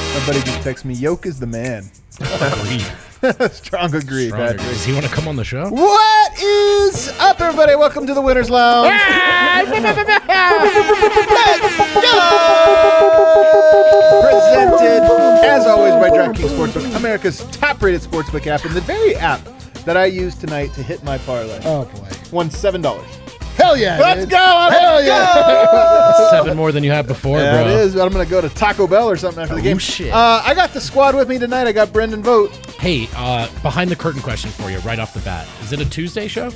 My buddy just texted me, Yoke is the man. Agreed. Strong agree, Patrick. Does he want to come on the show? What is up, everybody? Welcome to the Winners Lounge. Presented, as always, by DraftKings Sportsbook, America's top-rated sportsbook app, and the very app that I used tonight to hit my parlay. Oh, boy. Won $7. Hell yeah. Let's dude. go! Hell yeah. That's 7 more than you had before, Yeah, bro. it is. I'm going to go to Taco Bell or something after the game. Shit. I got the squad with me tonight. I got Brendan Vogt. Hey, behind the curtain question for you right off the bat. Is it a Tuesday show?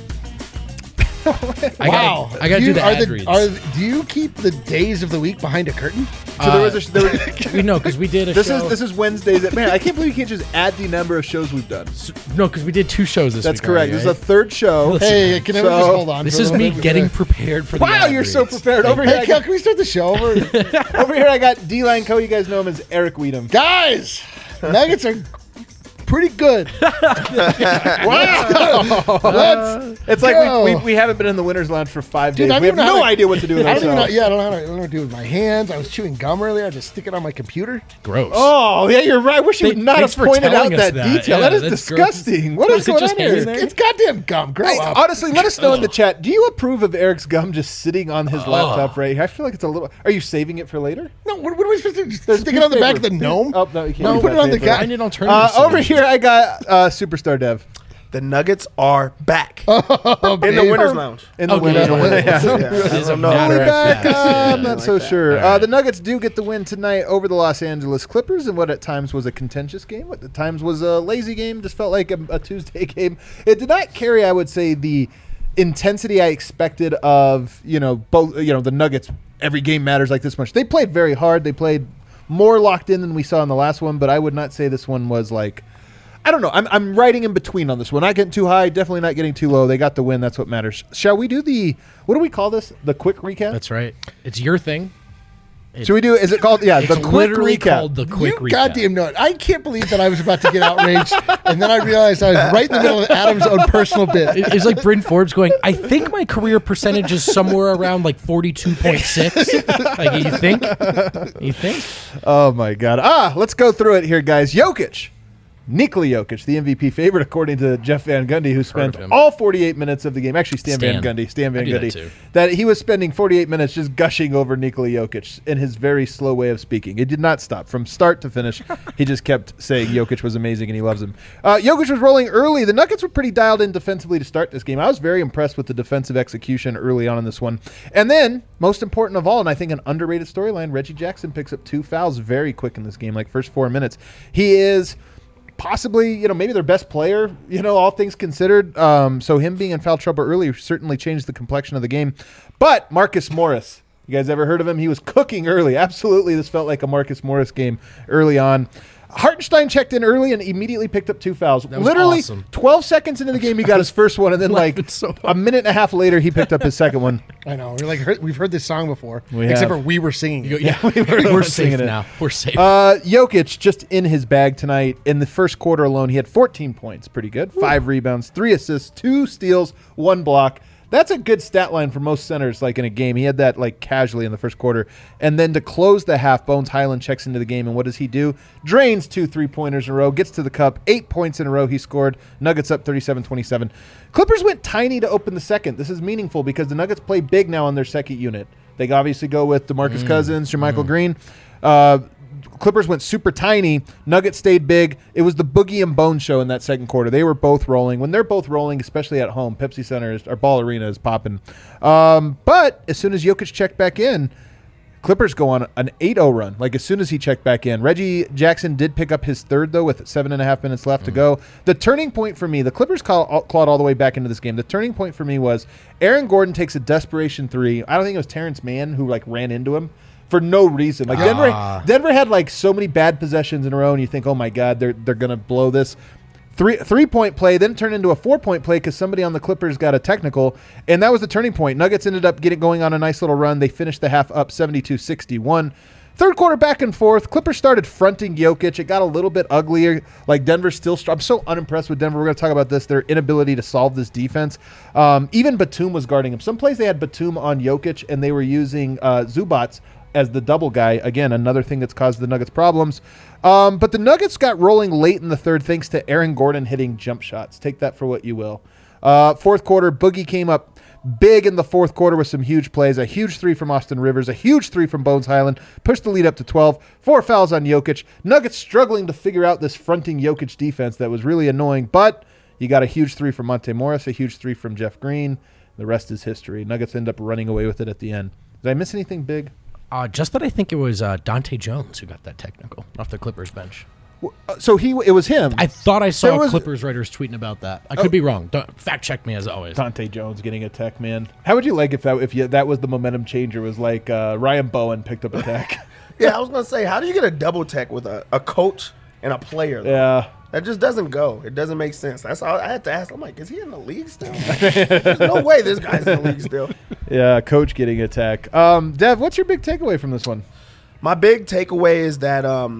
Wow. I gotta do the ad reads. Do you keep the days of the week behind a curtain? So We know because we did a this show. is Wednesdays. Man, I can't believe you can't just add the number of shows we've done. No, because we did 2 shows this That's week. correct. already, This is right? the third show. Listen, Hey, can I So- just hold on? This for a is little me bit? getting prepared for the Wow, ad you're so reads. prepared. Over here, Hey, can we start the show over? over here, I got D-Line Co. You guys know him as Eric Weedham. Guys, Nuggets are pretty good. Wow. It's like go. we haven't been in the Winners Lounge for 5 Dude, days. I We have don't even know no how to- idea what to do with I don't even know. ourselves. Yeah, I don't know how to do it with my hands. I was chewing gum earlier. I just stick it on my computer. Gross. Oh, yeah, you're right. I wish you would not have Thanks for pointed out telling us that that. detail. Yeah, that is that's gross. disgusting. What Was is it going just on here? hanging there? It's goddamn gum. Grow Hey, up. honestly, let us know in the chat. Do you approve of Eric's gum just sitting on his laptop right here? I feel like it's a little. Are you saving it for later? No, what are we supposed to do? Stick it on the back of the gnome? Oh, no, you can't. No, use put that it on the paper. guy. I need alternative Over solutions. here, I got Superstar Dev The Nuggets are back Oh, in the babe. Winners Lounge. in the Okay, winner. yeah. Yeah. As a don't know. matter Fully of back. fact, I'm not like so that. sure. All right. The Nuggets do get the win tonight over the Los Angeles Clippers in what at times was a contentious game. What at times was a lazy game. Just felt like a Tuesday game. It did not carry, I would say, the intensity I expected of both. The Nuggets. Every game matters like this much. They played very hard. They played more locked in than we saw in the last one. But I would not say this one was like. I don't know. I'm riding in between on this one. Not getting too high, definitely not getting too low. They got the win. That's what matters. Shall we do what do we call this? The quick recap? That's right. It's your thing. Should we do? Is it called? Yeah, It's the quick literally recap. called the quick You recap. goddamn know it. I can't believe that I was about to get outraged, and then I realized I was right in the middle of Adam's own personal bit. It's like Bryn Forbes going, I think my career percentage is somewhere around like 42.6. Like, you think? Oh my God! Let's go through it here, guys. Jokic, Nikola Jokic, the MVP favorite, according to Jeff Van Gundy, who spent of him. all 48 minutes of the game. Actually, Stan Stan. Van I do that Gundy. too. That he was spending 48 minutes just gushing over Nikola Jokic in his very slow way of speaking. It did not stop from start to finish. He just kept saying Jokic was amazing and he loves him. Jokic was rolling early. The Nuggets were pretty dialed in defensively to start this game. I was very impressed with the defensive execution early on in this one. And then, most important of all, and I think an underrated storyline, Reggie Jackson picks up 2 fouls very quick in this game, like first 4 minutes. He is possibly, maybe their best player, all things considered. So him being in foul trouble early certainly changed the complexion of the game. But Marcus Morris, you guys ever heard of him? He was cooking early. Absolutely, this felt like a Marcus Morris game early on. Hartenstein checked in early and immediately picked up 2 fouls. That was Literally, awesome. 12 seconds into the game, he got his first one, and then Laughing so hard. a minute and a half later, he picked up his second one. I know. We've heard this song before, We except have. for we were singing it. Yeah, We're we're singing safe it. now. We're safe. Jokic just in his bag tonight. In the first quarter alone, he had 14 points. Pretty good. 5 rebounds, 3 assists, 2 steals, 1 block. That's a good stat line for most centers, like in a game. He had that like casually in the first quarter. And then to close the half, Bones Highland checks into the game. And what does he do? Drains 2 3-pointers in a row, gets to the cup, 8 points in a row he scored. Nuggets up 37-27. Clippers went tiny to open the second. This is meaningful because the Nuggets play big now on their second unit. They obviously go with DeMarcus Cousins, Jermichael Green. Clippers went super tiny. Nuggets stayed big. It was the Boogie and Bone show in that second quarter. They were both rolling. When they're both rolling, especially at home, Pepsi Center, our Ball Arena is popping. But as soon as Jokic checked back in, Clippers go on an 8-0 run, like as soon as he checked back in. Reggie Jackson did pick up his third, though, with 7.5 minutes left to go. The turning point for me, the Clippers clawed all the way back into this game. The turning point for me was Aaron Gordon takes a desperation 3. I don't think it was Terrence Mann who ran into him for no reason. Like Denver had like so many bad possessions in a row, and you think, oh my God, they're gonna blow this. 3-point play, then turned into a 4-point play because somebody on the Clippers got a technical, and that was the turning point. Nuggets ended up going on a nice little run. They finished the half up 72-61. Third quarter back and forth. Clippers started fronting Jokic. It got a little bit uglier. Like Denver's still strong. I'm so unimpressed with Denver. We're going to talk about this. Their inability to solve this defense. Even Batum was guarding him. Some plays they had Batum on Jokic, and they were using Zubats as the double guy. Again, another thing that's caused the Nuggets problems. But the Nuggets got rolling late in the third thanks to Aaron Gordon hitting jump shots. Take that for what you will. Fourth quarter, Boogie came up big in the fourth quarter with some huge plays. A huge three from Austin Rivers, a huge three from Bones Highland, pushed the lead up to 12. 4 fouls on Jokic. Nuggets struggling to figure out this fronting Jokic defense that was really annoying, but you got a huge three from Monte Morris, a huge three from Jeff Green. The rest is history. Nuggets end up running away with it at the end. Did I miss anything big? Just that I think it was Dante Jones who got that technical off the Clippers bench. So it was him. I thought I saw There was- Clippers writers tweeting about that. I could be wrong. Fact check me as always. Dante Jones getting a tech, man. How would you like if that was the momentum changer? Was like Ryan Bowen picked up a tech. Yeah, I was gonna say, how do you get a double tech with a coach and a player? Though? Yeah. That just doesn't go. It doesn't make sense. That's all I had to ask. I'm like, is he in the league still? There's no way this guy's in the league still. Yeah, coach getting a tech. Dev, what's your big takeaway from this one? My big takeaway is that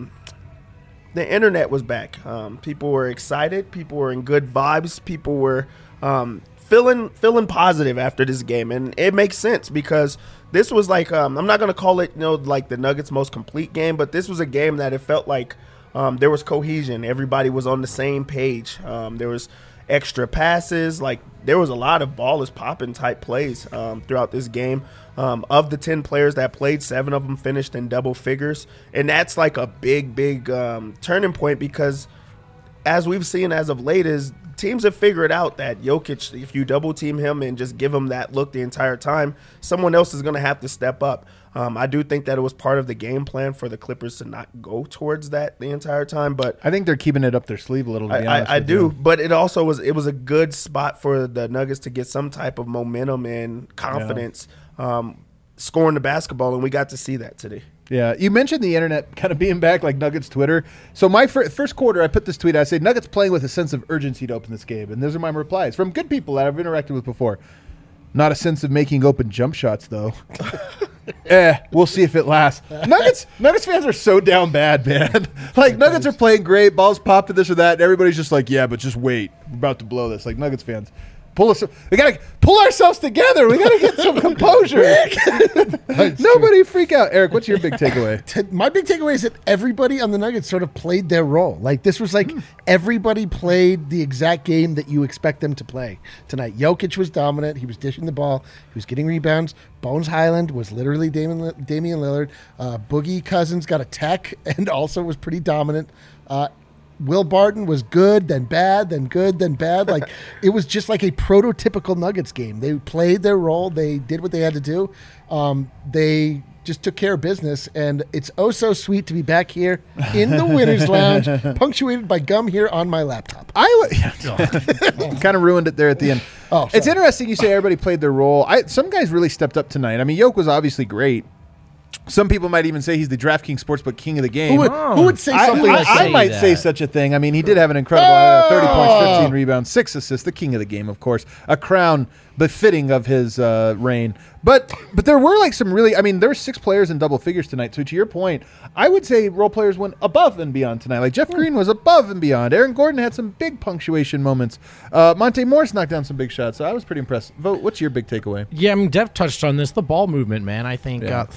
the internet was back. People were excited. People were in good vibes. People were feeling positive after this game, and it makes sense because this was like I'm not gonna call it like the Nuggets' most complete game, but this was a game that it felt like there was cohesion. Everybody was on the same page. There was extra passes. Like there was a lot of ball is popping type plays throughout this game. Of the 10 players that played, 7 of them finished in double figures. And that's like a big turning point because as we've seen as of late is teams have figured out that Jokic, if you double team him and just give him that look the entire time, someone else is going to have to step up. I do think that it was part of the game plan for the Clippers to not go towards that the entire time, but I think they're keeping it up their sleeve a little. To be honest I with do, you. but it was a good spot for the Nuggets to get some type of momentum and confidence scoring the basketball, and we got to see that today. Yeah, you mentioned the internet kind of being back, like Nuggets Twitter. So my first quarter, I put this tweet. I said Nuggets playing with a sense of urgency to open this game, and those are my replies from good people that I've interacted with before. Not a sense of making open jump shots, though. We'll see if it lasts. Nuggets fans are so down bad, man. Like, Nuggets are playing great, balls pop to this or that, and everybody's just like, yeah, but just wait. We're about to blow this. Like, Nuggets fans, we got to pull ourselves together. We got to get some composure. Nobody freak out. Eric, what's your big takeaway? My big takeaway is that everybody on the Nuggets sort of played their role. Like this was like everybody played the exact game that you expect them to play tonight. Jokic was dominant. He was dishing the ball. He was getting rebounds. Bones Highland was literally Damian Lillard. Boogie Cousins got a tech and also was pretty dominant. Will Barton was good, then bad, then good, then bad. Like it was just like a prototypical Nuggets game. They played their role. They did what they had to do. They just took care of business, and it's oh so sweet to be back here in the Winners Lounge, punctuated by gum here on my laptop. Kind of ruined it there at the end. Oh, it's sorry. interesting you say everybody played their role. Some guys really stepped up tonight. I mean, Yoke was obviously great. Some people might even say he's the DraftKings Sportsbook king of the game. Who would say something like I that? might say such a thing. I mean, he did have an incredible 30 points, 15 rebounds, 6 assists, the king of the game, of course. A crown befitting of his reign. But there were like some really, I mean, there were 6 players in double figures tonight. So to your point, I would say role players went above and beyond tonight. Like Jeff Green was above and beyond. Aaron Gordon had some big punctuation moments. Monte Morris knocked down some big shots. So I was pretty impressed. Vogt, what's your big takeaway? Yeah, I mean, Dev touched on this. The ball movement, man. I think Yeah.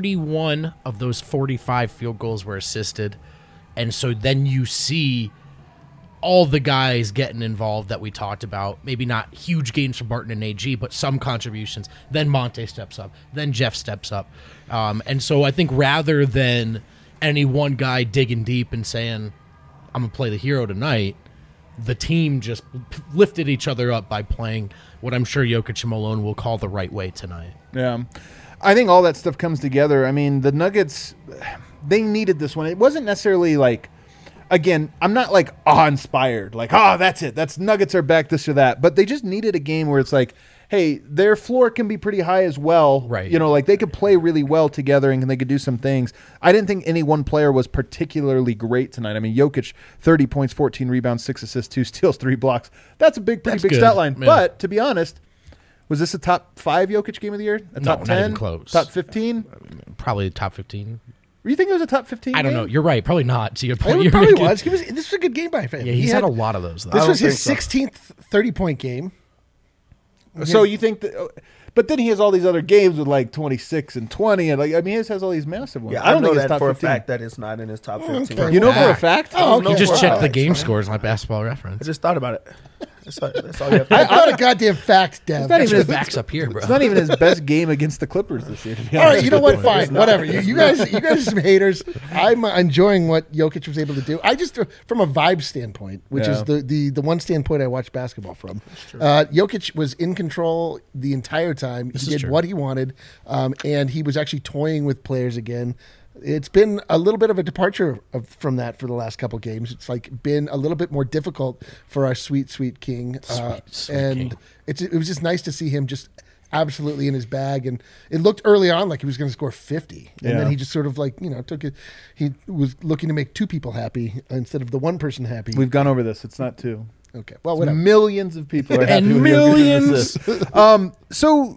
31 of those 45 field goals were assisted. And so then you see all the guys getting involved that we talked about. Maybe not huge games from Barton and AG, but some contributions. Then Monte steps up. Then Jeff steps up. And so I think rather than any one guy digging deep and saying, I'm going to play the hero tonight, the team just lifted each other up by playing what I'm sure Jokic and Malone will call the right way tonight. Yeah. I think all that stuff comes together. I mean, the Nuggets, they needed this one. It wasn't necessarily like, again, I'm not like awe-inspired, like, that's it. That's Nuggets are back, this or that. But they just needed a game where it's like, hey, their floor can be pretty high as well. Right. You know, like they could play really well together and they could do some things. I didn't think any one player was particularly great tonight. I mean, Jokic, 30 points, 14 rebounds, 6 assists, 2 steals, 3 blocks. That's a pretty big good. stat line. Yeah. But to be honest, was this a top 5 Jokic game of the year? A No, top not 10? even close. Top 15? Probably top 15. You think it was a top 15 I don't game? know. You're right. Probably not. To your point, It you're probably making- was. This was a good game by him. Yeah, he's had a lot of those, though. This was don't his think 16th 30-point game. So you think that But then he has all these other games with like 26 and 20, and like I mean, he has all these massive ones. Yeah, I don't know think it's that top for 15. a fact that it's not in his top 15. okay. You know for a Fact. fact? Oh, No, You just for check the facts, game man. scores on Basketball I Reference. just thought about it. That's all you have to It's not a goddamn fact, Dev. not even Just his- backs up here, bro. It's not even his best game against the Clippers this year. To be All right, honest you know with what? Fine, whatever. You guys are some haters. I'm enjoying what Jokic was able to do. I just, from a vibe standpoint, which is Yeah. the one standpoint I watch basketball from. Jokic was in control the entire time. He is did true. what he wanted, and he was actually toying with players again. It's been a little bit of a departure from that for the last couple games. It's like been a little bit more difficult for our sweet king, Sweet and king. it was just nice to see him just absolutely in his bag. And it looked early on like he was going to score 50, and Yeah. then he just sort of like took it. He was looking to make two people happy instead of the one person happy. We've gone over this. It's not two. Okay, well, whatever. Millions of people are happy And with millions. Jokic's assist. So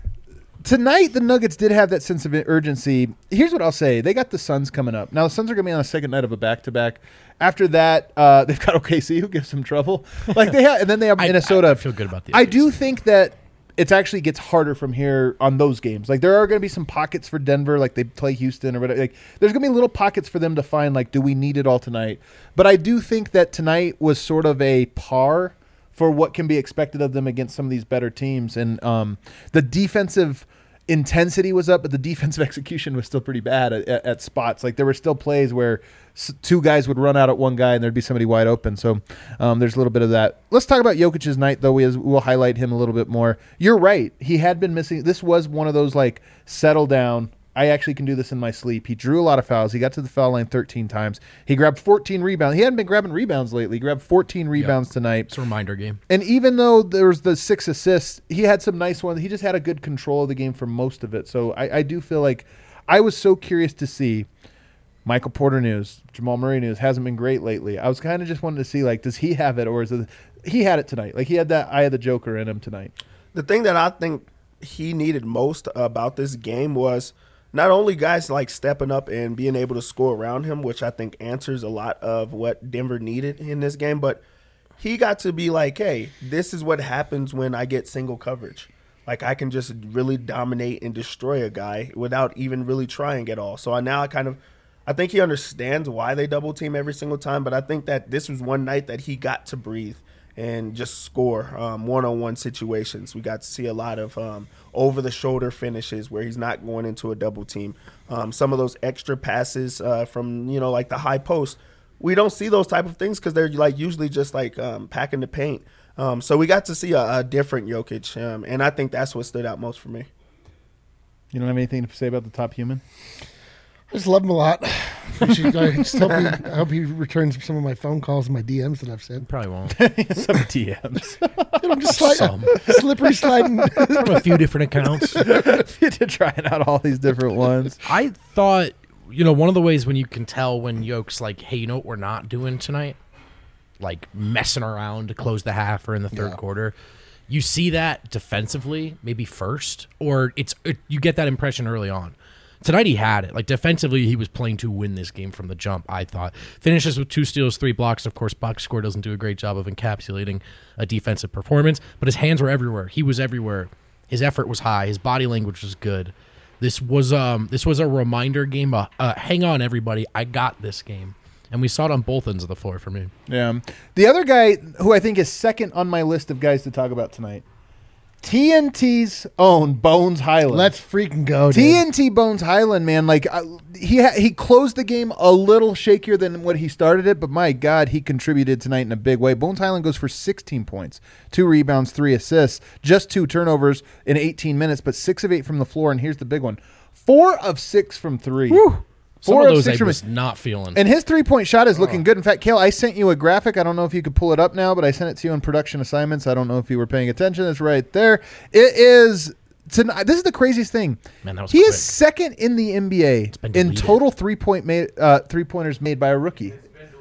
tonight the Nuggets did have that sense of urgency. Here's what I'll say: they got the Suns coming up. Now the Suns are going to be on a second night of a back-to-back. After that, they've got OKC, who gives them trouble. Like they have, and then they have Minnesota. I feel good about the I OKC. do think that it actually gets harder from here on those games. Like there are going to be some pockets for Denver, like they play Houston or whatever. Like there's going to be little pockets for them to find. Like, do we need it all tonight? But I do think that tonight was sort of a par for what can be expected of them against some of these better teams. And the defensive intensity was up, but the defensive execution was still pretty bad at spots. Like there were still plays where two guys would run out at one guy and there'd be somebody wide open. So there's a little bit of that. Let's talk about Jokic's night, though. We'll highlight him a little bit more. You're right. He had been missing. This was one of those like settle down. I actually can do this in my sleep. He drew a lot of fouls. He got to the foul line 13 times. He grabbed 14 rebounds. He hadn't been grabbing rebounds lately. He grabbed 14 rebounds tonight. It's a reminder game. And even though there was the 6 assists, he had some nice ones. He just had a good control of the game for most of it. So I do feel like I was so curious to see Michael Porter news, Jamal Murray news hasn't been great lately. I was kind of just wanting to see, like, does he have it or is it he had it tonight? Like he had that eye of the Joker in him tonight. The thing that I think he needed most about this game was not only guys like stepping up and being able to score around him, which I think answers a lot of what Denver needed in this game, but he got to be like, hey, this is what happens when I get single coverage. Like I can just really dominate and destroy a guy without even really trying at all. So I think he understands why they double team every single time, but I think that this was one night that he got to breathe and just score one-on-one situations. We got to see a lot of over-the-shoulder finishes where he's not going into a double team. Some of those extra passes from, like the high post, we don't see those type of things because they're like usually just like packing the paint. So we got to see a different Jokic, and I think that's what stood out most for me. You don't have anything to say about the top human? I just love him a lot. I hope he returns some of my phone calls and my DMs that I've sent. Probably won't. Some DMs. I'm just Some. slippery sliding. From a few different accounts. You're trying out all these different ones. I thought, one of the ways when you can tell when Yoke's like, hey, you know what we're not doing tonight? Like messing around to close the half or in the third quarter. You see that defensively, maybe first, or you get that impression early on. Tonight he had it. Like defensively, he was playing to win this game from the jump, I thought. Finishes with 2 steals, 3 blocks. Of course, box score doesn't do a great job of encapsulating a defensive performance, but his hands were everywhere. He was everywhere. His effort was high. His body language was good. This was a reminder game. Hang on, everybody. I got this game. And we saw it on both ends of the floor for me. Yeah. The other guy who I think is second on my list of guys to talk about tonight, TNT's own Bones Highland. Let's freaking go, dude. TNT Bones Highland, man. Like he closed the game a little shakier than what he started it, but my God, he contributed tonight in a big way. Bones Highland goes for 16 points, 2 rebounds, 3 assists, just 2 turnovers in 18 minutes, but 6 of 8 from the floor. And here's the big one: 4 of 6 from 3. Some 4 of of those 6 I from was not feeling. And his 3-point shot is looking good. In fact, Kale, I sent you a graphic. I don't know if you could pull it up now, but I sent it to you on production assignments. I don't know if you were paying attention. It's right there. It is tonight. This is the craziest thing. Man, that was he quick. is second in the NBA been in deleted. total three-pointers made by a rookie.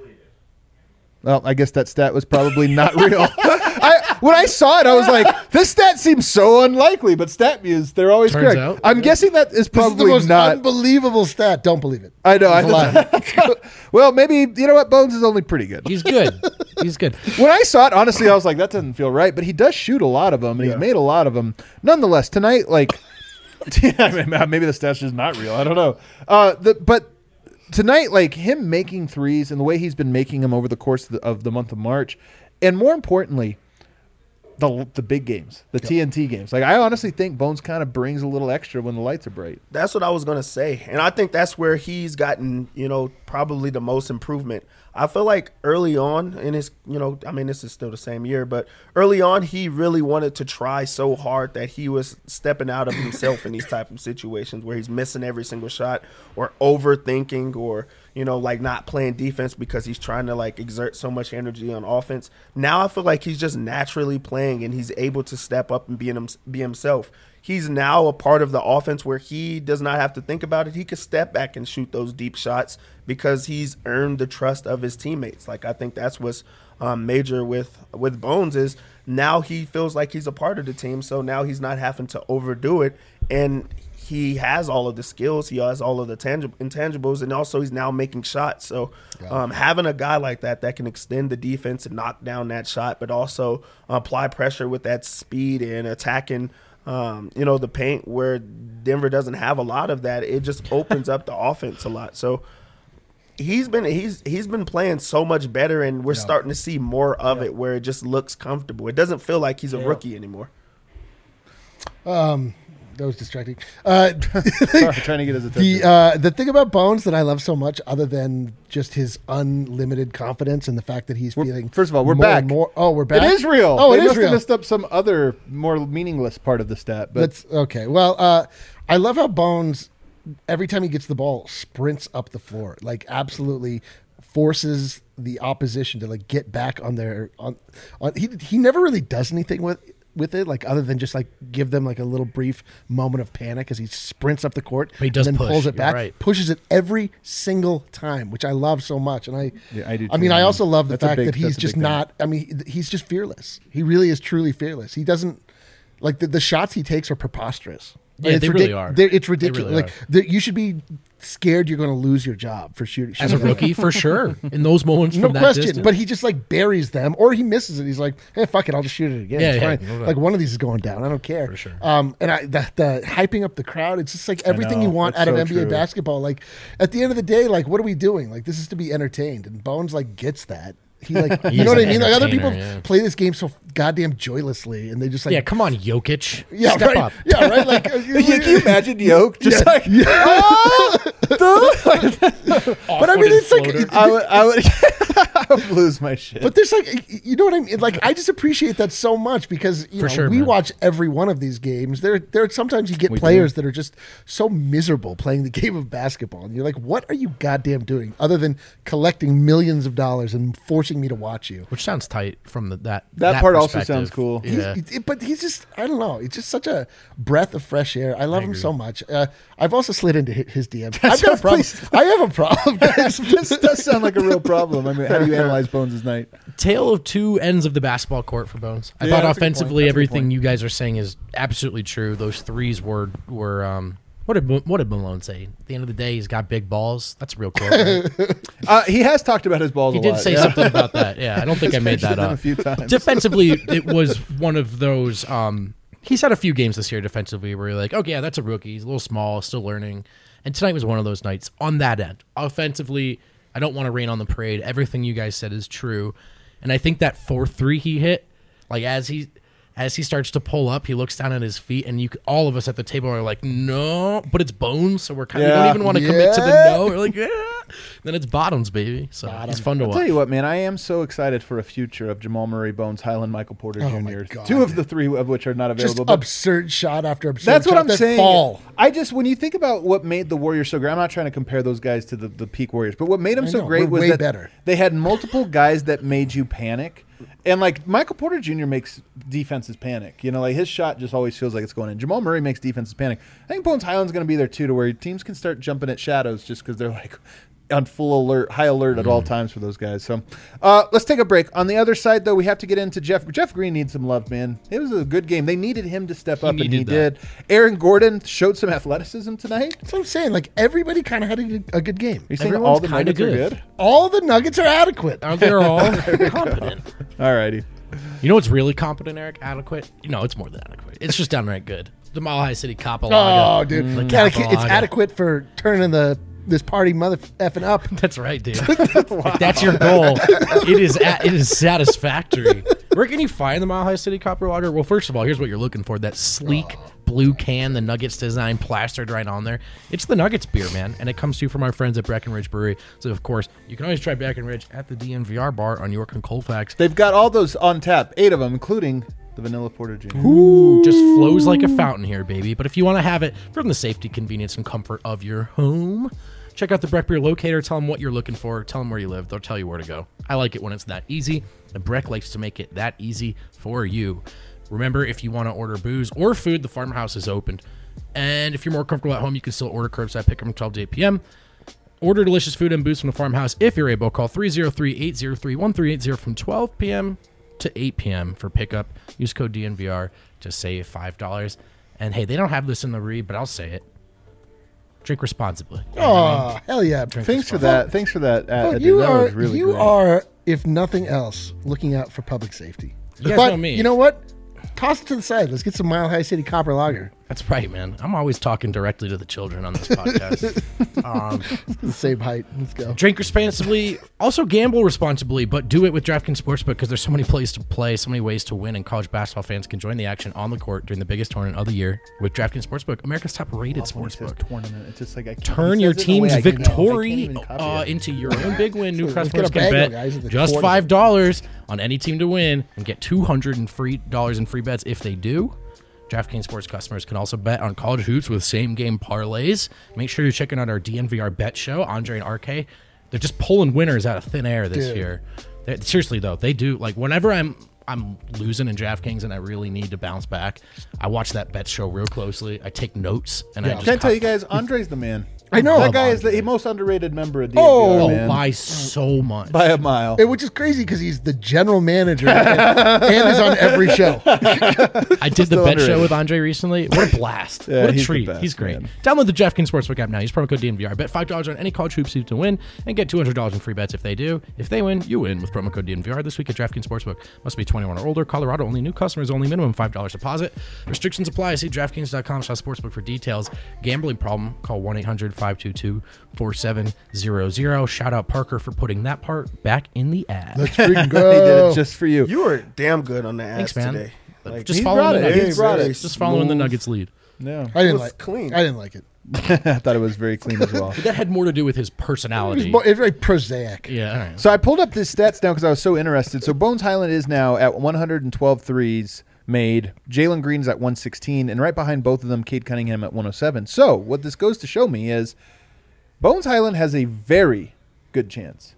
Well, I guess that stat was probably not real. When I saw it, I was like, this stat seems so unlikely, but StatMuse, they're always Turns correct. out. I'm guessing that is This is the probably most not. unbelievable stat. Don't believe it. I know. It's a lie. Well, maybe, you know what? Bones is only pretty good. He's good. He's good. When I saw it, honestly, I was like, that doesn't feel right. But he does shoot a lot of them, and he's made a lot of them. Nonetheless, tonight, like, maybe the stat's just not real. I don't know. But tonight, like, him making threes and the way he's been making them over the course of the month of March, and more importantly, the big games, the TNT games. Like, I honestly think Bones kind of brings a little extra when the lights are bright. That's what I was going to say. And I think that's where he's gotten, probably the most improvement. I feel like early on in his, this is still the same year, but early on he really wanted to try so hard that he was stepping out of himself in these type of situations where he's missing every single shot or overthinking or, like not playing defense because he's trying to like exert so much energy on offense. Now I feel like he's just naturally playing and he's able to step up and be himself. He's now a part of the offense where he does not have to think about it. He can step back and shoot those deep shots because he's earned the trust of his teammates. Like, I think that's what's major with Bones is now he feels like he's a part of the team. So now he's not having to overdo it. And he has all of the skills. He has all of the intangibles. And also he's now making shots. So having a guy like that can extend the defense and knock down that shot, but also apply pressure with that speed and attacking the paint where Denver doesn't have a lot of that. It just opens up the offense a lot. So he's been playing so much better, and we're starting to see more of it where it just looks comfortable. It doesn't feel like he's a rookie anymore. That was distracting. Sorry, trying to get his attention. The thing about Bones that I love so much, other than just his unlimited confidence and the fact that he's feeling. First of all, we're more back. and more. Oh, we're back. It is real. Oh, they it is must have real. messed up some other more meaningless part of the stat. But That's okay. Well, I love how Bones, every time he gets the ball, sprints up the floor. Like, absolutely forces the opposition to like get back on their on. He never really does anything with it, like other than just like give them like a little brief moment of panic as he sprints up the court. But he does and then push, pulls it you're back, right. pushes it every single time, which I love so much. And I do I mean, too, I man. also love the That's a fact big- that he's that's a just big thing. not. I mean, he's just fearless. He really is truly fearless. He doesn't like the shots he takes are preposterous. Yeah, It's they really are. It's ridiculous. really Like you should be scared you're going to lose your job for shooting As a rookie, for sure. In those moments No from that question, distance. but he just like buries them, or he misses it. He's like, "Hey, fuck it, I'll just shoot it again. Yeah, it's yeah, fine." no doubt. Like one of these is going down. I don't care For sure. And the hyping up the crowd, it's just like everything know, you want that's out of so NBA true. basketball. Like at the end of the day, like what are we doing? Like this is to be entertained, and Bones like gets that. He like, you He's know what I an mean? Like other people entertainer, yeah. play this game so goddamn joylessly, and they just like, yeah, come on, Jokic. yeah, Step right, up. yeah, right. Like, Can you imagine Yoke just like? but I mean, it's like. I would I would lose my shit. But there's like, you know what I mean? Like, I just appreciate that so much because, you know, sure, we man. watch every one of these games. There sometimes you get players that are just so miserable playing the game of basketball. And you're like, what are you goddamn doing other than collecting millions of dollars and forcing me to watch you? Which sounds tight from that part also perspective. sounds cool. Yeah. But he's just, I don't know. It's just such a breath of fresh air. I love him so much. I've also slid into his DMs. I've got a problem. I have a problem, guys. This does sound like a real problem. I mean, how do you analyze Bones' night? Tale of two ends of the basketball court for Bones. I Yeah, thought that's a good offensively, point. That's a good everything point. you guys are saying is absolutely true. Those threes were what did Malone say? At the end of the day, he's got big balls. That's real court. Right? He has talked about his balls He a did lot. say something about that. Yeah, I don't think I made that mentioned them up. a few times. Defensively, it was one of those. He's had a few games this year defensively where you're like, okay, yeah, that's a rookie. He's a little small, still learning. And tonight was one of those nights on that end. Offensively, I don't want to rain on the parade. Everything you guys said is true. And I think that 4-3 he hit, like as he starts to pull up, he looks down at his feet, and all of us at the table are like, no, but it's Bones, so we don't even want to commit to the no. We're like, yeah. Then it's bottoms, baby. So it's fun to I'll watch. tell you what, man, I am so excited for a future of Jamal Murray, Bones, Highland, Michael Porter Oh, my Jr. God. Two of the three of which are not Just available. but absurd shot after absurd that's what shot I'm that saying. fall. When you think about what made the Warriors so great, I'm not trying to compare those guys to the peak Warriors, but what made them I so know, great we're was way that better. they had multiple guys that made you panic. And like Michael Porter Jr. makes defenses panic. You know, like his shot just always feels like it's going in. Jamal Murray makes defenses panic. I think Bones Highland's going to be there too, to where teams can start jumping at shadows just because they're like, on full alert, high alert at all times for those guys. So let's take a break. On the other side, though, we have to get into Jeff. Jeff Green needs some love, man. It was a good game. They needed him to step up, and he did. Aaron Gordon showed some athleticism tonight. That's what I'm saying. Like, everybody kind of had a good game. You're saying all the Nuggets are good? All the Nuggets are adequate. They're all competent. All righty. You know what's really competent, Eric? Adequate? No, it's more than adequate. It's just downright good. The Mile High City Capolaga. Oh, dude. It's adequate for turning this party mother effing up. That's right, dude. If that's your goal, it is satisfactory. Where can you find the Mile High City Copper Lager? Well, first of all, here's what you're looking for. That sleek blue can, the Nuggets design plastered right on there. It's the Nuggets beer, man, and it comes to you from our friends at Breckenridge Brewery. So, of course, you can always try Breckenridge at the DNVR bar on York and Colfax. They've got all those on tap, 8 of them, including the Vanilla Porter Jr. Ooh, just flows like a fountain here, baby. But if you want to have it from the safety, convenience, and comfort of your home, check out the Breck Beer Locator. Tell them what you're looking for. Tell them where you live. They'll tell you where to go. I like it when it's that easy. And Breck likes to make it that easy for you. Remember, if you want to order booze or food, the farmhouse is open. And if you're more comfortable at home, you can still order curbside pickup from 12 to 8 p.m. Order delicious food and booze from the farmhouse if you're able. Call 303-803-1380 from 12 p.m. to 8 p.m. for pickup. Use code DNVR to save $5. And hey, they don't have this in the read, but I'll say it. Drink responsibly. Oh, hell yeah. Thanks for that. Thanks for that. You that are, was really you great. are, if nothing else, looking out for public safety. You guys But know me. you know what? Toss it to the side. Let's get some Mile High City Copper Lager. That's right, man. I'm always talking directly to the children on this podcast. The same height. Let's go. Drink responsibly. Also gamble responsibly, but do it with DraftKings Sportsbook because there's so many places to play, so many ways to win, and college basketball fans can join the action on the court during the biggest tournament of the year with DraftKings Sportsbook, America's top-rated sportsbook. Tournament. It's just like I can't, Turn your team's victory into your own big win. New Let's customers get a can bagel, bet guys, at the just tournament. $5 on any team to win and get $200 in free bets if they do. DraftKings Sports customers can also bet on college hoops with same-game parlays. Make sure you're checking out our DNVR bet show, Andre and RK. They're just pulling winners out of thin air this year. Seriously, though, they do. Like, whenever I'm losing in DraftKings and I really need to bounce back, I watch that bet show real closely. I take notes. And I just Can't tell you guys, Andre's the man. I know. That guy is the most underrated member of DNVR, Oh, man. by so much. By a mile. Which is crazy because he's the general manager and is on every show. I did the Still bet show underrated. with Andre recently. What a blast. Yeah, what a he's the treat. best, He's great. man. Download the DraftKings Sportsbook app now. Use promo code DNVR. Bet $5 on any college hoops to win and get $200 in free bets if they do. If they win, you win with promo code DNVR this week at DraftKings Sportsbook. Must be 21 or older. Colorado only. New customers only. Minimum $5 deposit. Restrictions apply. See DraftKings.com/sportsbook for details. Gambling problem? Call 1-800-522-4700. Shout out Parker for putting that part back in the ad. Let's freaking He go. did it just for you. You were damn good on the ads Thanks, man. today. Like, Just he following the brought it. Nuggets. He brought it. Just following the Nuggets lead. No. I didn't was like clean. I didn't like it. I thought it was very clean as well. That had more to do with his It was, personality. it's very prosaic. Yeah, all right. So I pulled up his stats now because I was so interested. So Bones Highland is now at 112 threes made. Jalen Green's at 116, and right behind both of them, Cade Cunningham at 107. So what this goes to show me is Bones Highland has a very good chance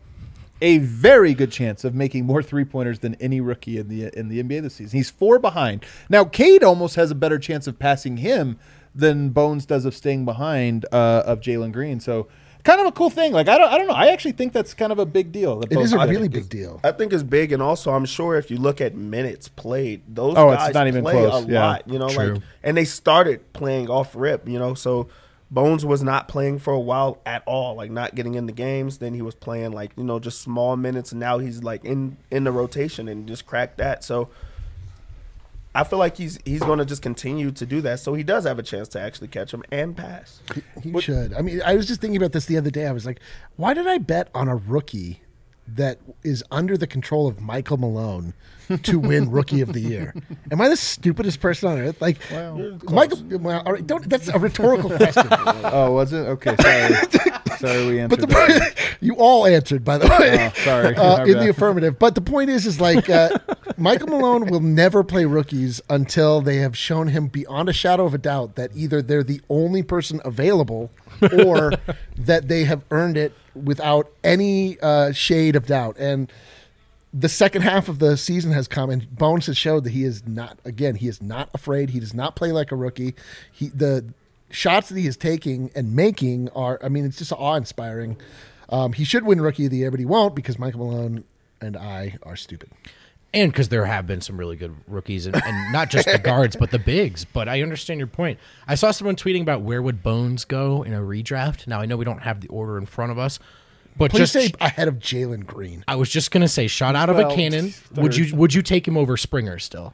of making more three-pointers than any rookie in the NBA this season. He's 4 behind. Now, Cade almost has a better chance of passing him than Bones does of staying behind of Jalen Green. So kind of a cool thing. Like I don't know. I actually think that's kind of a big deal. that It Bones is a did really big deal. I think it's big, and also I'm sure if you look at minutes played, those Oh, it's guys not even play close. a Yeah. lot. You know, True. like, and they started playing off rip. You know, so Bones was not playing for a while at all, like not getting into games. Then he was playing like, you know, just small minutes, and now he's like in the rotation and just cracked that. So I feel like he's going to just continue to do that. So he does have a chance to actually catch him and pass. He should. I mean, I was just thinking about this the other day. I was like, why did I bet on a rookie that is under the control of Michael Malone to win Rookie of the Year? Am I the stupidest person on earth? Like, Michael. Well, all right, that's a rhetorical question. Oh, was it? Okay, sorry. Sorry, we answered But that. you all answered, by the way. Oh, sorry. In the affirmative. But the point is like Michael Malone will never play rookies until they have shown him beyond a shadow of a doubt that either they're the only person available or that they have earned it without any shade of doubt. And the second half of the season has come, and Bones has showed that he is not afraid. He does not play like a rookie. The shots that he is taking and making are, I mean, it's just awe-inspiring. He should win Rookie of the Year, but he won't because Michael Malone and I are stupid. And because there have been some really good rookies, and not just the guards, but the bigs. But I understand your point. I saw someone tweeting about where would Bones go in a redraft. Now, I know we don't have the order in front of us, but Please just say ahead of Jalen Green. I was just going to say, shot out of a Well, cannon. third. Would you take him over Springer still?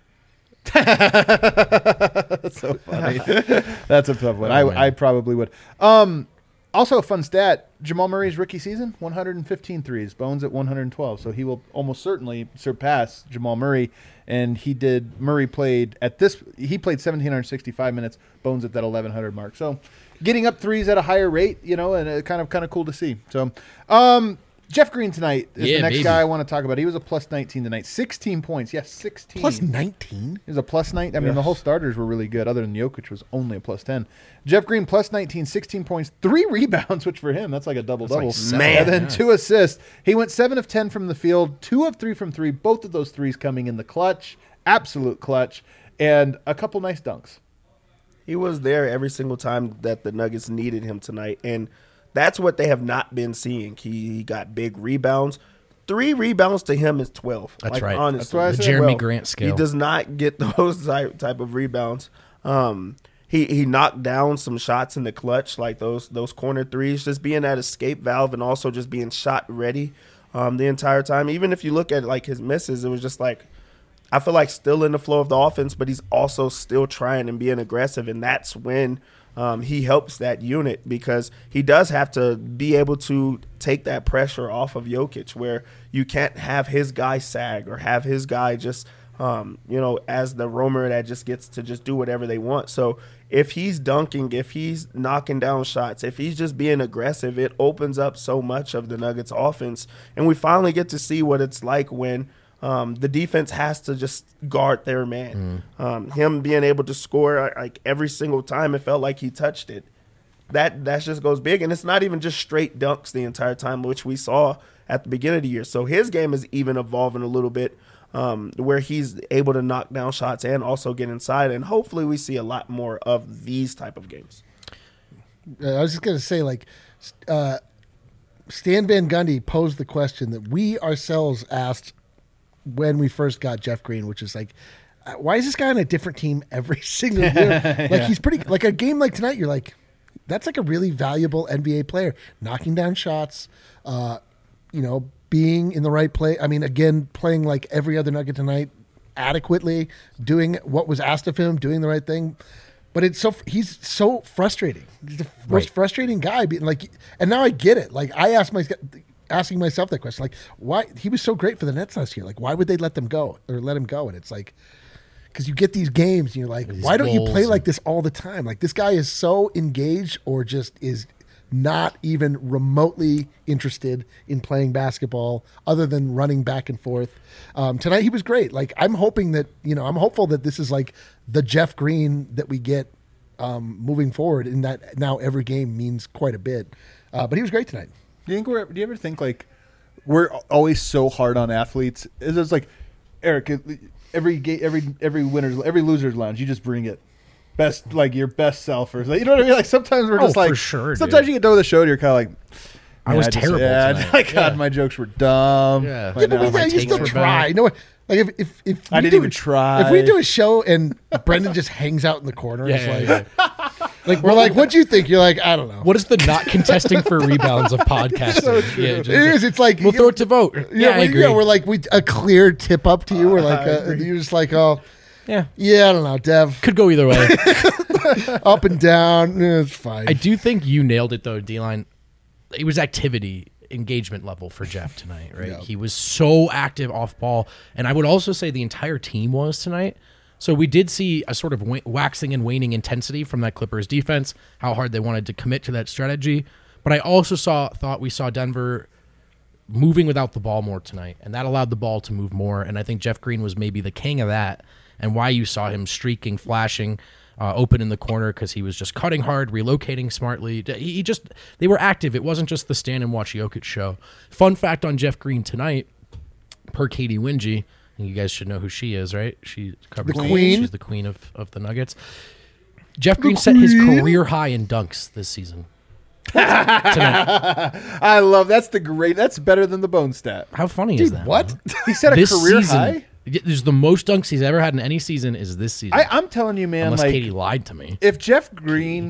That's so funny. That's a tough one. Oh, man. I probably would. Also, a fun stat: Jamal Murray's rookie season, 115 threes. Bones at 112, so he will almost certainly surpass Jamal Murray. And Murray played at this. He played 1,765 minutes. Bones at that 1,100 mark. So, getting up threes at a higher rate, and kind of cool to see. So, Jeff Green tonight is the next guy I want to talk about. He was a plus 19 tonight. 16 points. Yes, 16. Plus 19? He was a plus 9. I mean, the whole starters were really good, other than Jokic was only a plus 10. Jeff Green, plus 19, 16 points, 3 rebounds, which for him, that's like a double-double. Man. And then 2 assists. He went 7 of 10 from the field, 2 of 3 from 3, both of those threes coming in the clutch, absolute clutch, and a couple nice dunks. He was there every single time that the Nuggets needed him tonight, and that's what they have not been seeing. He got big rebounds. 3 rebounds to him is 12. That's right. Honestly. That's why I The said, Jeremy Grant scale. He does not get those type of rebounds. He knocked down some shots in the clutch, like those corner threes, just being that escape valve and also just being shot ready the entire time. Even if you look at like his misses, it was just like, I feel like still in the flow of the offense, but he's also still trying and being aggressive, and that's when he helps that unit, because he does have to be able to take that pressure off of Jokic, where you can't have his guy sag or have his guy just, as the roamer that just gets to just do whatever they want. So if he's dunking, if he's knocking down shots, if he's just being aggressive, it opens up so much of the Nuggets offense. And we finally get to see what it's like when the defense has to just guard their man. Him being able to score like every single time it felt like he touched it. That just goes big. And it's not even just straight dunks the entire time, which we saw at the beginning of the year. So his game is even evolving a little bit, where he's able to knock down shots and also get inside. And hopefully we see a lot more of these type of games. I was just going to say, Stan Van Gundy posed the question that we ourselves asked when we first got Jeff Green, which is like, why is this guy on a different team every single year? Like he's pretty, like a game like tonight, you're like, that's like a really valuable NBA player, knocking down shots, being in the right play. I mean, again, playing like every other Nugget tonight adequately, doing what was asked of him, doing the right thing. But he's so frustrating. He's the most frustrating guy. Being like, and now I get it. Like I asking myself that question, like why he was so great for the Nets last year. Like why would they let him go? And it's like, because you get these games and you're like, why don't you play like this all the time? Like this guy is so engaged or just is not even remotely interested in playing basketball other than running back and forth. Tonight he was great. Like I'm hoping that, I'm hopeful that this is like the Jeff Green that we get moving forward, in that now every game means quite a bit. But he was great tonight. Do you ever think like we're always so hard on athletes? It's like, Eric, every loser's lounge, you just bring it. Best, like your best self, or you know what I mean? Like sometimes we're just like, for sure, sometimes dude. you get done with the show and you're kind of like, I was terrible tonight. My God, my jokes were dumb. Yeah. But now my you takes still were try. bad. You know what? Like if I we didn't do- even try. If we do a show and Brendan just hangs out in the corner, it's Yeah. like we're like, what'd you think? You're like, I don't know. What is the not contesting for rebounds of podcasting? Yeah, It is. It's like we'll throw it to vote. Yeah, I agree. we're like a clear tip up to you. We're like you're just like, oh yeah, I don't know, Dev. could go either way. Up and down, it's fine. I do think you nailed it though, D-Line. It was activity, engagement level for Jeff tonight, right? Yeah. He was so active off ball, and I would also say the entire team was tonight. So we did see a sort of waxing and waning intensity from that Clippers defense, how hard they wanted to commit to that strategy. But I also thought we saw Denver moving without the ball more tonight, and that allowed the ball to move more. And I think Jeff Green was maybe the king of that, and why you saw him streaking, flashing, open in the corner, because he was just cutting hard, relocating smartly. They were active. It wasn't just the stand and watch Jokic show. Fun fact on Jeff Green tonight, per Katie Wingy, and you guys should know who she is, right? She covers The queen. She's the queen of the Nuggets. Jeff Green set his career high in dunks this season. tonight. I love that's better than the bone stat. How funny is Dude, that? what? man? He set a This career season, high. This is the most dunks he's ever had in any season. Is this season? I'm telling you, man. Unless Like Katie lied to me. if Jeff Green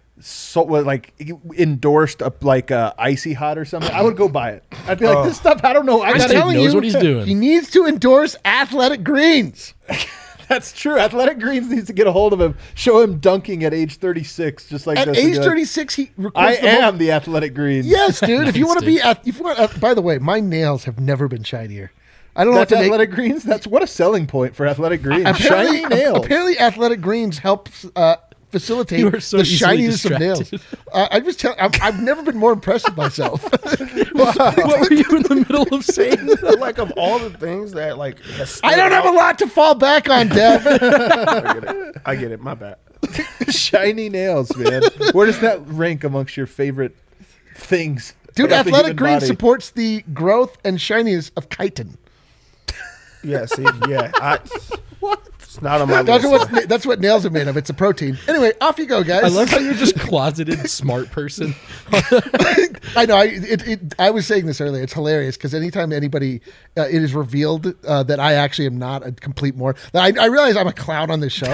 endorsed a icy hot or something, I would go buy it. I'd be like, this stuff. I don't know. I This got dude telling knows you, what he's doing. He needs to endorse Athletic Greens. That's true. Athletic Greens needs to get a hold of him. Show him dunking at age 36, just like At this. age and be like, 36, he I records the am most. the Athletic Greens. Yes, dude. If you Nice, want to dude. be, if you want, by the way, my nails have never been shinier. I don't know That's what to make. Athletic Greens. That's what a selling point for Athletic Greens. Apparently, Shiny nails. apparently, Athletic Greens helps facilitate You are so the easily shininess of nails. distracted. I just tell. I've never been more impressed with myself. What were you in the middle of saying? Like of all the things that like has I don't have a lot to fall back on, Dev. I get it. My bad. Shiny nails, man. Where does that rank amongst your favorite things? Dude, about the Athletic human Greens body? supports the growth and shininess of chitin. Yeah. See. Yeah. It's not on my That's list. that's what nails are made of. It's a protein. Anyway, off you go, guys. I love how you're just closeted smart person. I know. I was saying this earlier. It's hilarious because anytime anybody, it is revealed that I actually am not a complete moron. I realize I'm a clown on this show.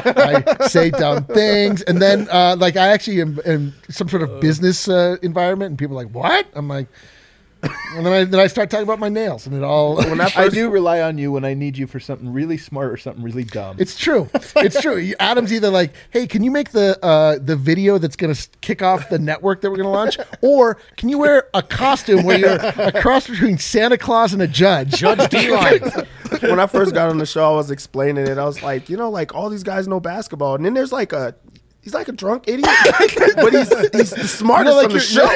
I say dumb things, and then like I actually am in some sort of business environment, and people are like, "What?" I'm like, and then I start talking about my nails, and it all. When I I first, do rely on you when I need you for something really smart or something really dumb. It's true. It's true. Adam's either like, "Hey, can you make the video that's going to kick off the network that we're going to launch, or can you wear a costume where you're a cross between Santa Claus and a judge?" Judge D-line. when I first got on the show, I was explaining it. I was like, like all these guys know basketball, and then there's like he's like a drunk idiot, but he's the smartest like on the show.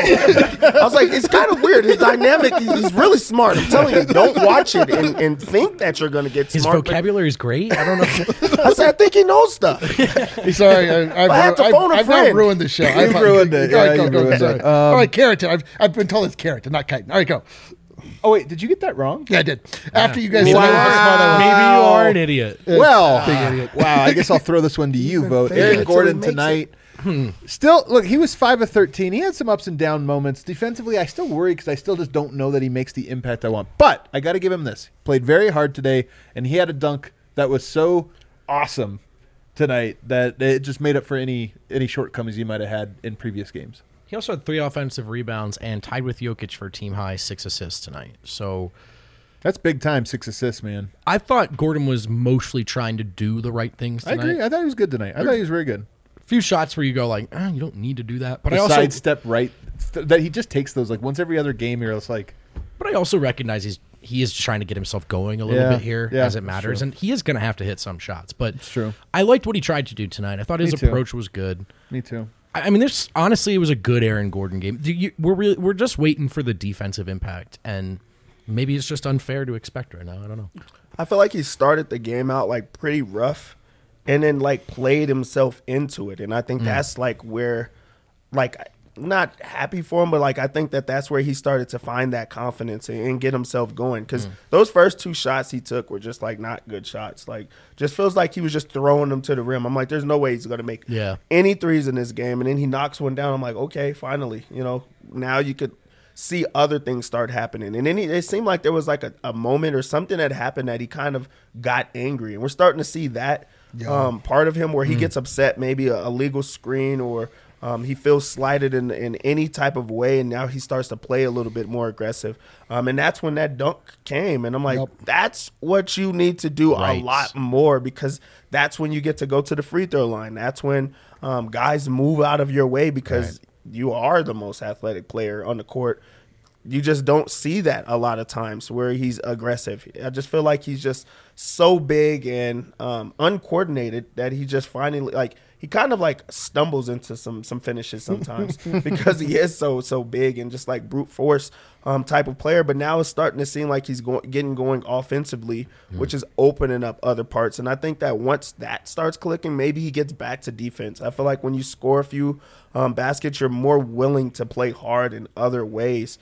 I was like, it's kind of weird. His dynamic, he's really smart. I'm telling you, don't watch it and think that you're going to get His smart. vocabulary is great. I don't know. I said, I think he knows stuff. Sorry, I had to phone a I've now friend. ruined the show. I've ruined it. All right, Yeah, go, you go, ruined sorry. it. All right, Carrington. I've been told it's Carrington, not Chitin. All right, go. Oh wait, did you get that wrong? Yeah, I did. After you guys Maybe, said how smart I was. maybe you are an idiot. Well, wow. I guess I'll throw this one to you, vote. fake it Aaron until Gordon he makes tonight. Still, look, he was 5 of 13. He had some ups and down moments. Defensively, I still worry because I still just don't know that he makes the impact I want. But I got to give him this. Played very hard today, and he had a dunk that was so awesome tonight that it just made up for any shortcomings he might have had in previous games. He also had 3 offensive rebounds and tied with Jokic for team high 6 assists tonight. So That's big time, 6 assists, man. I thought Gordon was mostly trying to do the right things I tonight. agree. I thought he was good tonight. I thought he was very good. A few shots where you go like, you don't need to do that. But The I also sidestep right, that he just takes those like once every other game. You're just like, But I also recognize he is trying to get himself going a little Yeah, bit here yeah, as it that's matters, true. and he is going to have to hit some shots. But It's true. I liked what he tried to do tonight. I thought his Me too. approach was good. me too. I mean, this honestly, it was a good Aaron Gordon game. We're just waiting for the defensive impact, and maybe it's just unfair to expect right now. I don't know. I feel like he started the game out like pretty rough and then like played himself into it. And I think that's like where, like, not happy for him, but like I think that's where he started to find that confidence and get himself going. Because those first 2 shots he took were just like not good shots. Like, just feels like he was just throwing them to the rim. I'm like, there's no way he's going to make any threes in this game. And then he knocks one down. I'm like, okay, finally, now you could see other things start happening. And then it seemed like there was like a moment or something that happened that he kind of got angry. And we're starting to see that part of him where he gets upset, maybe a legal screen or he feels slighted in any type of way, and now he starts to play a little bit more aggressive. And that's when that dunk came. And I'm like, that's what you need to do a lot more, because that's when you get to go to the free throw line. That's when guys move out of your way because you are the most athletic player on the court. You just don't see that a lot of times where he's aggressive. I just feel like he's just so big and uncoordinated that he just finally, like, he kind of like stumbles into some finishes sometimes because he is so big and just like brute force type of player. But now it's starting to seem like he's getting going offensively, which is opening up other parts. And I think that once that starts clicking, maybe he gets back to defense. I feel like when you score a few baskets, you're more willing to play hard in other ways.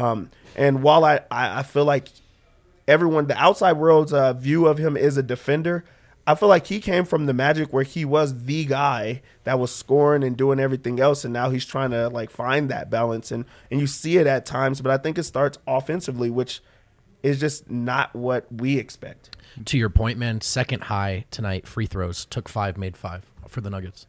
And while I feel like the outside world's view of him is a defender, I feel like he came from the Magic where he was the guy that was scoring and doing everything else, and now he's trying to like find that balance, and you see it at times. But I think it starts offensively, which is just not what we expect. To your point, man, second high tonight, free throws, took 5, made 5 for the Nuggets.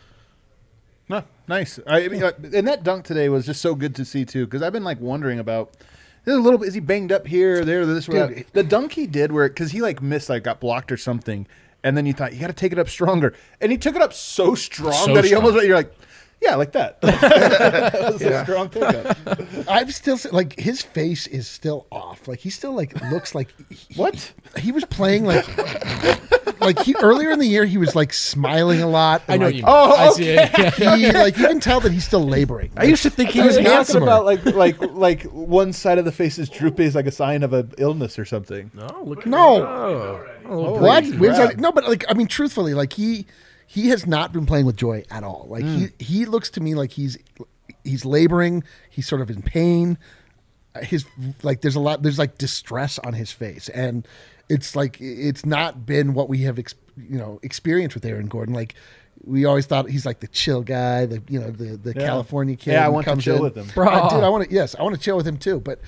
No, nice. I mean, and that dunk today was just so good to see too, because I've been like wondering about. There's a little bit. Is he banged up here, there, this, or that? The dunk he did, where because he like missed, like got blocked or something, and then you thought you got to take it up stronger, and he took it up so strong that he almost. You're like, yeah, like that. That was a strong pickup. I'm still like his face is still off. Like he still like looks like What? He was playing like he earlier in the year he was like smiling a lot. I know like, you. Oh, I see it. Yeah. He like you can tell that he's still laboring. I used to think he was You're talking handsomer. about like one side of the face is droopy is like a sign of an illness or something. No, look. No. Holy What? crap. No, but like I mean, truthfully, like he has not been playing with joy at all. Like he looks to me like he's laboring. He's sort of in pain. His like there's like distress on his face, and it's like it's not been what we have experienced with Aaron Gordon. Like we always thought he's like the chill guy, the California kid. Yeah, I who want to comes chill in. with him. Bro. I want to chill with him too. But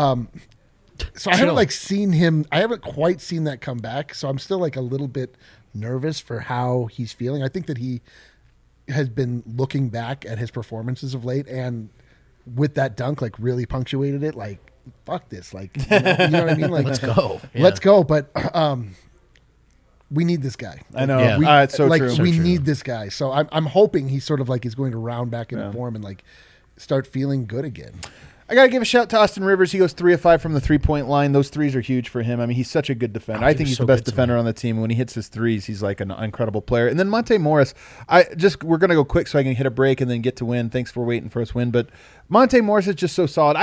so I haven't like seen him. I haven't quite seen that come back. So I'm still like a little bit nervous for how he's feeling. I think that he has been looking back at his performances of late, and with that dunk, like really punctuated it. Like fuck this. Like you know what I mean? Like Let's go. let's go. But we need this guy. I know. Yeah. It's so like true. we true. need this guy. So I'm hoping he sort of like is going to round back into form and like start feeling good again. I got to give a shout to Austin Rivers. He goes 3 of 5 from the 3-point line. Those threes are huge for him. I mean, he's such a good defender. I think he's so the best good defender on the team. When he hits his threes, he's like an incredible player. And then Monte Morris, we're going to go quick so I can hit a break and then get to win. Thanks for waiting for us win. But Monte Morris is just so solid.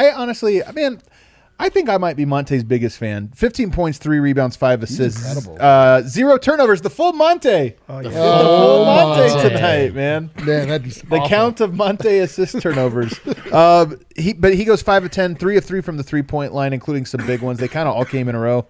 I think I might be Monte's biggest fan. 15 points, 3 rebounds, 5 assists. incredible. 0 turnovers. The full Monte. Oh yeah. The full Monte Monte. tonight, man. Man, that'd be The awful. count of Monte assist turnovers. He goes 5 of 10, 3 of 3 from the 3-point line, including some big ones. They kind of all came in a row.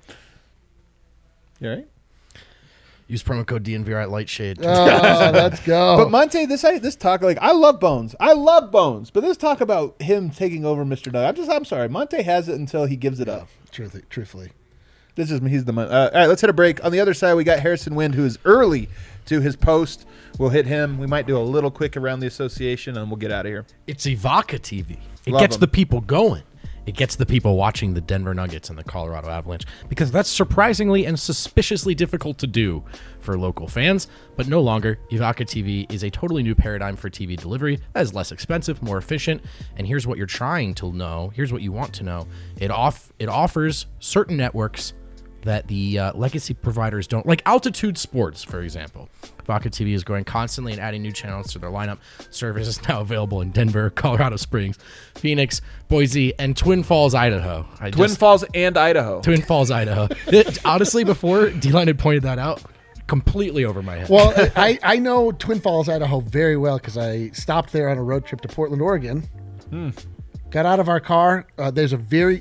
You all right? Use promo code DNVR at Lightshade. Let's go. But Monte, this talk, like, I love Bones. But this talk about him taking over Mr. Nugget, I'm sorry. Monte has it until he gives it up. Truthfully. He's the all right, let's hit a break. On the other side, we got Harrison Wind, who is early to his post. We'll hit him. We might do a little quick around the association, and we'll get out of here. It's Ivaca TV. It Love gets 'em. the people going. It gets the people watching the Denver Nuggets and the Colorado Avalanche, because that's surprisingly and suspiciously difficult to do for local fans. But no longer. Ivaca TV is a totally new paradigm for TV delivery that is less expensive, more efficient. And here's what you're trying to know. Here's what you want to know. It offers certain networks that the legacy providers don't, like Altitude Sports, for example. Ivaca TV is growing constantly and adding new channels to their lineup. Service is now available in Denver, Colorado Springs, Phoenix, Boise, and Twin Falls, Idaho. Twin Falls and Idaho. Twin Falls, Idaho. Honestly, before D-Line had pointed that out, completely over my head. Well, I know Twin Falls, Idaho very well because I stopped there on a road trip to Portland, Oregon. Got out of our car. There's a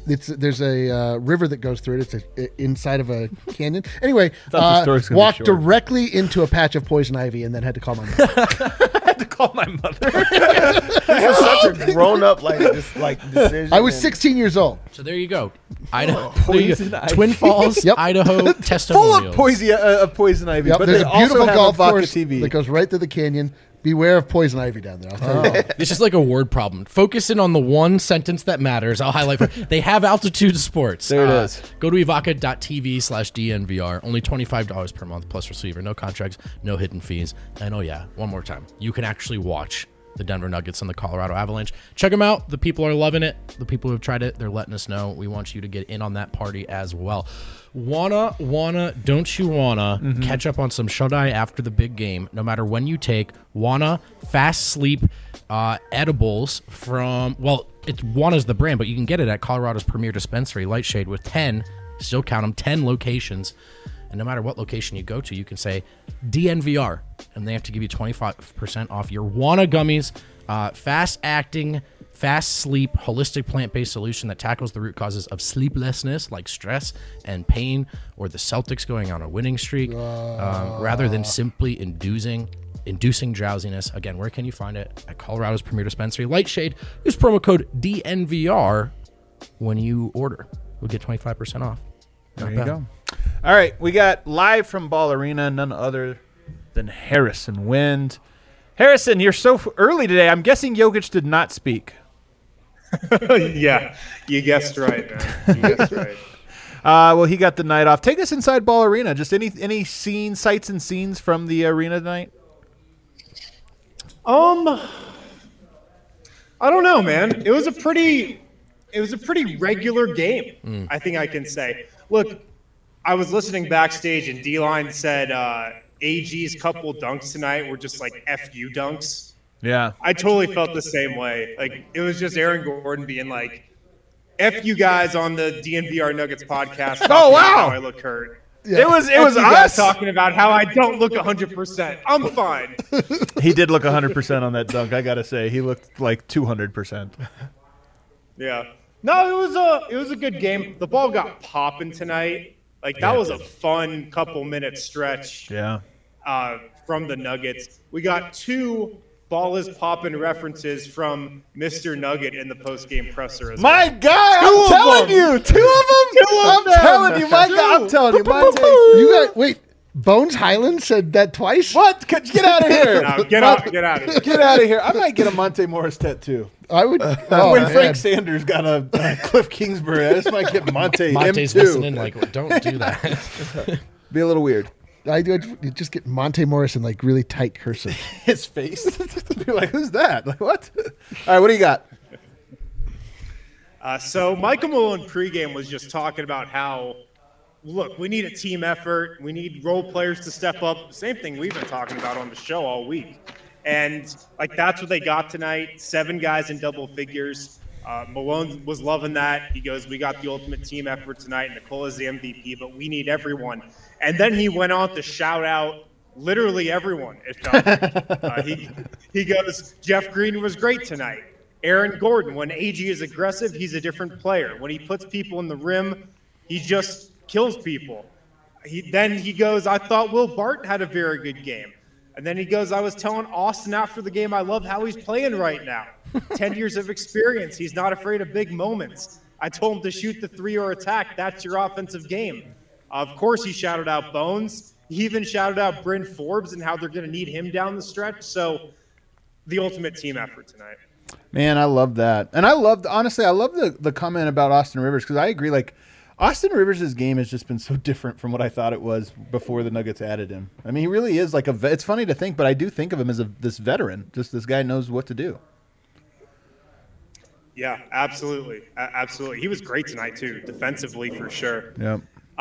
river that goes through it. It's inside of a canyon. Anyway, the story's gonna be walked short. directly into a patch of poison ivy and then had to call my mom. I had to call my mother. This is such a grown up decision. I was 16 years old. So there you go. Idaho. There you Poison go. ivy. Twin Falls, Yep. Idaho, Full testimonials. of poison ivy. Yep, But there's they a also beautiful have golf Ivaca course TV. that goes right through the canyon. Beware of poison ivy down there. I'll tell you that. It's just like a word problem. Focus in on the one sentence that matters. I'll highlight. They have Altitude Sports. There it is. Go to evaca.tv/DNVR. Only $25 per month plus receiver. No contracts, no hidden fees. And oh yeah, one more time. You can actually watch the Denver Nuggets and the Colorado Avalanche. Check them out. The people are loving it. The people who have tried it, they're letting us know. We want you to get in on that party as well. Don't you wanna catch up on some shut-eye after the big game, no matter when you take Fast Sleep edibles from, Wana's the brand, but you can get it at Colorado's premier dispensary, Lightshade, with 10, still count them, 10 locations. And no matter what location you go to, you can say DNVR, and they have to give you 25% off your Wana gummies. Fast-acting, fast-sleep, holistic plant-based solution that tackles the root causes of sleeplessness like stress and pain or the Celtics going on a winning streak rather than simply inducing drowsiness. Again, where can you find it? At Colorado's premier dispensary, Lightshade. Use promo code DNVR when you order. We'll get 25% off. There you go. All right, we got live from Ball Arena, none other than Harrison Wind. Harrison, you're so early today. I'm guessing Jokic did not speak. Yeah, you guessed right, man. You guessed right. Well, he got the night off. Take us inside Ball Arena. Just any scenes, sights and scenes from the arena tonight? I don't know, man. It was a pretty regular game, I think I can say. Look, I was listening backstage and D-Line said AG's couple dunks tonight were just like FU dunks. Yeah. I totally felt the same way. Like, it was just Aaron Gordon being like, F you guys on the DNVR Nuggets podcast. Oh, wow. How I look hurt. Yeah. It was F you guys us talking about how I don't look 100%. I'm fine. He did look 100% on that dunk, I got to say. He looked like 200%. Yeah. No, it was a good game. The ball got popping tonight. Like, that was a fun couple minute stretch. Yeah. From the Nuggets. We got 2 ball is popping references from Mr. Nugget in the post-game presser as well. My God, I'm telling you. 2 of them? I'm telling you, my God. I'm telling you, Monte. You got wait. Bones Highland said that twice. What? Get out of here. No, get out of here. Get out of here. I might get a Monte Morris tattoo. I would. When Frank Sanders got a Cliff Kingsbury, I just might get Monte Monte's M2. listening like, don't do that. Be a little weird. I would just get Monte Morris in like really tight cursive. His face. You're like, who's that? Like, what? All right, what do you got? So Michael Malone pregame was just talking about how, look, we need a team effort. We need role players to step up. Same thing we've been talking about on the show all week. And, like, that's what they got tonight. 7 guys in double figures. Malone was loving that. He goes, we got the ultimate team effort tonight. Nicola's the MVP, but we need everyone. And then he went on to shout out literally everyone, it felt like. He goes, Jeff Green was great tonight. Aaron Gordon, when AG is aggressive, he's a different player. When he puts people in the rim, he just kills people. Then he goes, I thought Will Barton had a very good game. And then he goes, I was telling Austin after the game, I love how he's playing right now. 10 years of experience. He's not afraid of big moments. I told him to shoot the 3 or attack. That's your offensive game. Of course, he shouted out Bones. He even shouted out Bryn Forbes and how they're going to need him down the stretch. So the ultimate team effort tonight. Man, I love that. And I love the comment about Austin Rivers, because I agree. Like, Austin Rivers' game has just been so different from what I thought it was before the Nuggets added him. I mean, he really is like it's funny to think, but I do think of him as this veteran. Just this guy knows what to do. Yeah, absolutely. Absolutely. He was great tonight, too, defensively for sure. Yeah.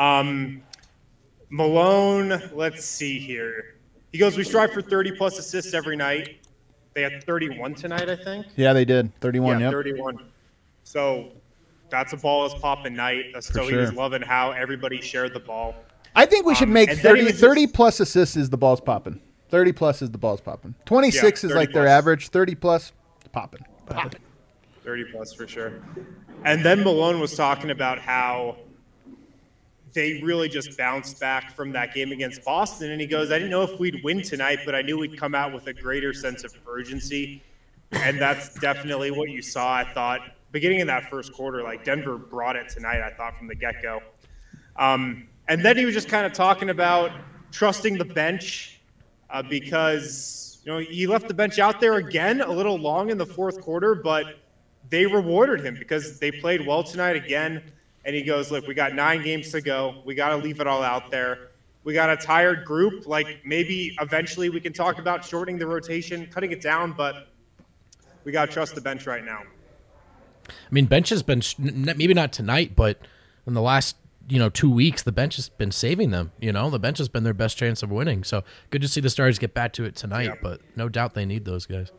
Malone, let's see here. He goes, we strive for 30-plus assists every night. They had 31 tonight, I think. Yeah, they did. 31, yeah. Yep. 31. So that's a ball is popping night. So he was loving how everybody shared the ball. I think we should make 30-plus assists is the balls popping. 30-plus is the balls popping. 26 is like their average. 30-plus, popping. 30-plus for sure. And then Malone was talking about how they really just bounced back from that game against Boston. And he goes, I didn't know if we'd win tonight, but I knew we'd come out with a greater sense of urgency. And that's definitely what you saw, I thought. Beginning in that first quarter, like Denver brought it tonight, I thought, from the get-go. And then he was just kind of talking about trusting the bench because, he left the bench out there again a little long in the fourth quarter, but they rewarded him because they played well tonight again. And he goes, look, we got 9 games to go. We got to leave it all out there. We got a tired group. Like, maybe eventually we can talk about shortening the rotation, cutting it down, but we got to trust the bench right now. I mean, bench has been, maybe not tonight, but in the last, 2 weeks, the bench has been saving them. The bench has been their best chance of winning. So good to see the Stars get back to it tonight, but no doubt they need those guys.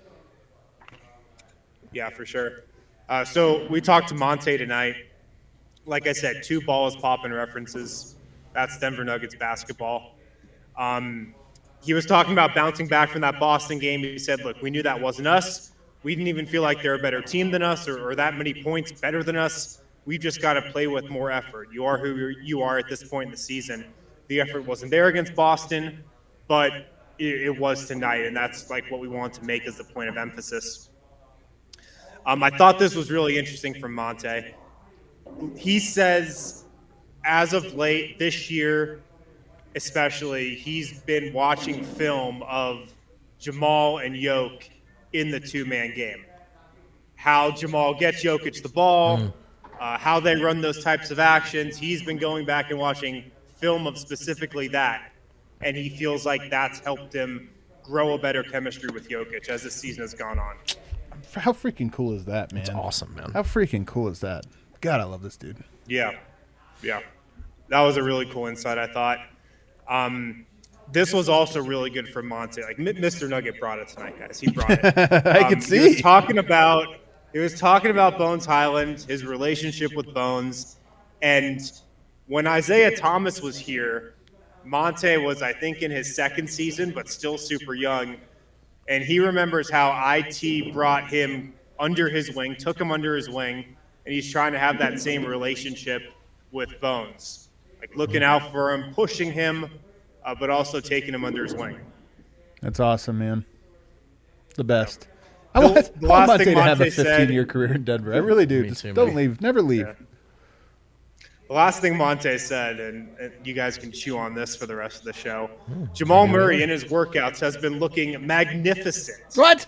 Yeah, for sure. So we talked to Monte tonight. Like I said, 2 balls popping references. That's Denver Nuggets basketball. he was talking about bouncing back from that Boston game. He said, look, we knew that wasn't us. We didn't even feel like they're a better team than us or that many points better than us. We've just got to play with more effort. You are who you are at this point in the season. The effort wasn't there against Boston, but it was tonight, and that's like what we want to make as the point of emphasis. I thought this was really interesting from Monte. He says, as of late this year, especially, he's been watching film of Jamal and Yoke in the two-man game. How Jamal gets Jokic the ball, how they run those types of actions. He's been going back and watching film of specifically that, and he feels like that's helped him grow a better chemistry with Jokic as the season has gone on. How freaking cool is that, man? It's awesome, man. How freaking cool is that? God, I love this dude. Yeah. That was a really cool insight, I thought. This was also really good for Monte. Like Mr. Nugget brought it tonight, guys. He brought it. I can see. He was talking about Bones Highland, his relationship with Bones, and when Isaiah Thomas was here, Monte was, I think, in his second season, but still super young, and he remembers how IT brought him under his wing, took him under his wing, and he's trying to have that same relationship with Bones, like looking out for him, pushing him, but also taking him under his wing. That's awesome, man. The best. The I want last Monte thing to have a Monte said- 15-year career in Denver. I really do. Me Just too, don't man. leave. Never leave. Yeah. The last thing Monte said, and you guys can chew on this for the rest of the show, Jamal Murray in his workouts has been looking magnificent. What?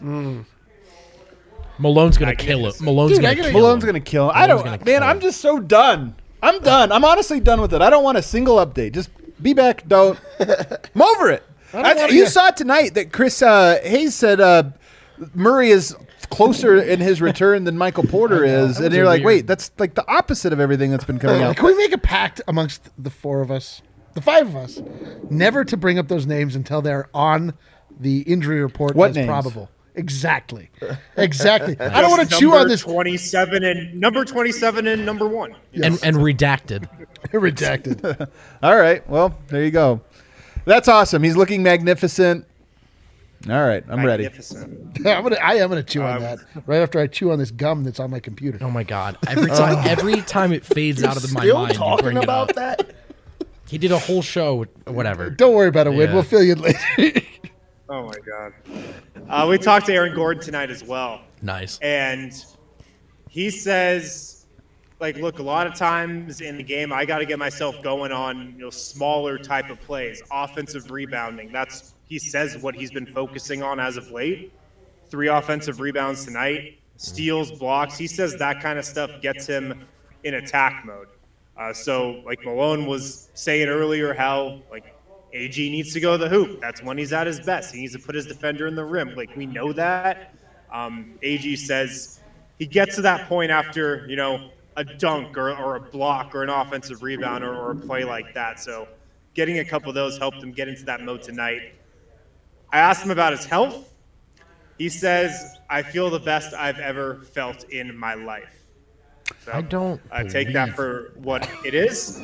Malone's gonna kill it. Malone's gonna kill Malone's him. going to kill him. Malone's gonna kill I'm him. just so done. I'm done. I'm honestly done with it. I don't want a single update. Just be back. Don't. I'm over it. You saw tonight that Chris Hayes said Murray is closer in his return than Michael Porter is, and you're like, wait, that's like the opposite of everything that's been coming out. Can we make a pact amongst the four of us, the five of us, never to bring up those names until they're on the injury report What as names? probable? Exactly. I don't want to chew on this. 27 and number 27 and number 1. And redacted. Redacted. All right, well, there you go. That's awesome. He's looking magnificent. All right, I'm ready. Magnificent. I am gonna chew on that right after I chew on this gum that's on my computer. Oh my god! Every time it fades out of my Still mind, you talking bring it about up. that? He did a whole show. Whatever. Don't worry about it, Wid. Yeah. We'll fill you in later. Oh, my God. We talked to Aaron Gordon tonight as well. Nice. And he says, like, look, a lot of times in the game, I got to get myself going on, smaller type of plays, offensive rebounding. He says what he's been focusing on as of late. 3 offensive rebounds tonight, steals, blocks. He says that kind of stuff gets him in attack mode. So, like Malone was saying earlier, how, like, AG needs to go to the hoop. That's when he's at his best. He needs to put his defender in the rim. Like, we know that. AG says he gets to that point after, a dunk or a block or an offensive rebound or a play like that. So getting a couple of those helped him get into that mode tonight. I asked him about his health. He says, I feel the best I've ever felt in my life. So I don't take that for what it is.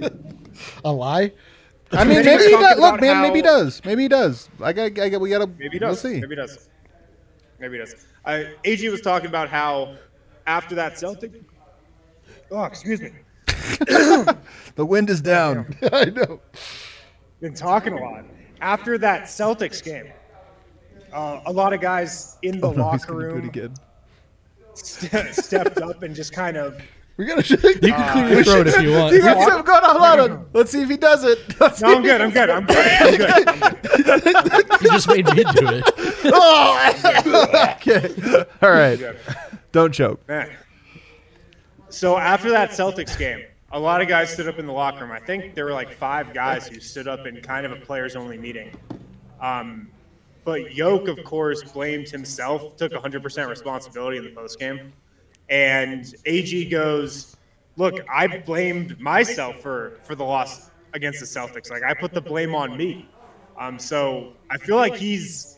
A lie? I mean, maybe he does. Look, man, maybe he does. Maybe he does. We gotta. Maybe he does. We'll see. Maybe he does. Maybe he does. AG was talking about how after that Celtic. Oh, excuse me. The wind is down. I know. Been talking a lot. After that Celtics game, a lot of guys in the He's locker gonna do it room again. stepped up and just kind of. We gotta shake. You can clear your throat if you want. You got something going on. Hold on. Let's see if he does it. Let's No, I'm good. I'm good. I'm good. You just made me do it. Okay. All right. Don't choke. Man. So after that Celtics game, a lot of guys stood up in the locker room. I think there were like 5 guys who stood up in kind of a players-only meeting. But Yoke, of course, blamed himself, took 100% responsibility in the postgame. And AG goes, look, I blamed myself for the loss against the Celtics. Like, I put the blame on me. So I feel like he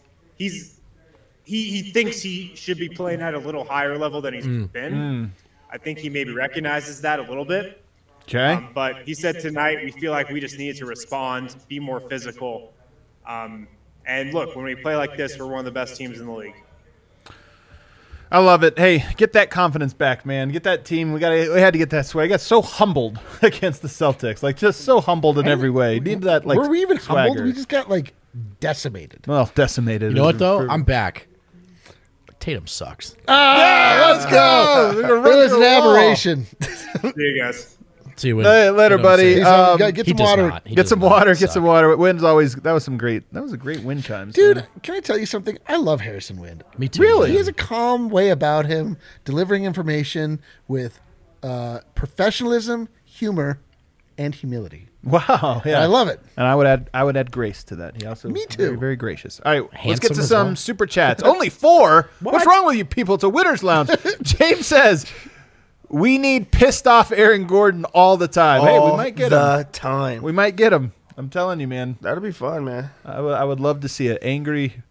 thinks he should be playing at a little higher level than he's been. I think he maybe recognizes that a little bit. Okay. But he said tonight we feel like we just needed to respond, be more physical. And look, when we play like this, we're one of the best teams in the league. I love it. Hey, get that confidence back, man. Get that team. We had to get that swag. I got so humbled against the Celtics, like just so humbled in every way. Need that like. Were we even humbled? swagger. We just got like decimated. Well, decimated. You know what though? I'm back. Tatum sucks. Let's go. It was an aberration. See you guys. See you when, Later, buddy. Get he some does water. not. He Get does some not water. Get suck. some water. Wind's always. That was a great wind chimes, Dude, man. can I tell you something? I love Harrison Wind. Me too. Really? He man. has a calm way about him, delivering information with professionalism, humor, and humility. Wow. Yeah. I love it. And I would add grace to that. He also Me too. Very, very gracious. All right, let's Handsome get to as some well. super chats. Only 4. What's wrong with you people? It's a winner's lounge. James says we need pissed off Aaron Gordon all the time. Hey, we might get the him. time. We might get him. I'm telling you, man. That'll be fun, man. I would love to see it. Angry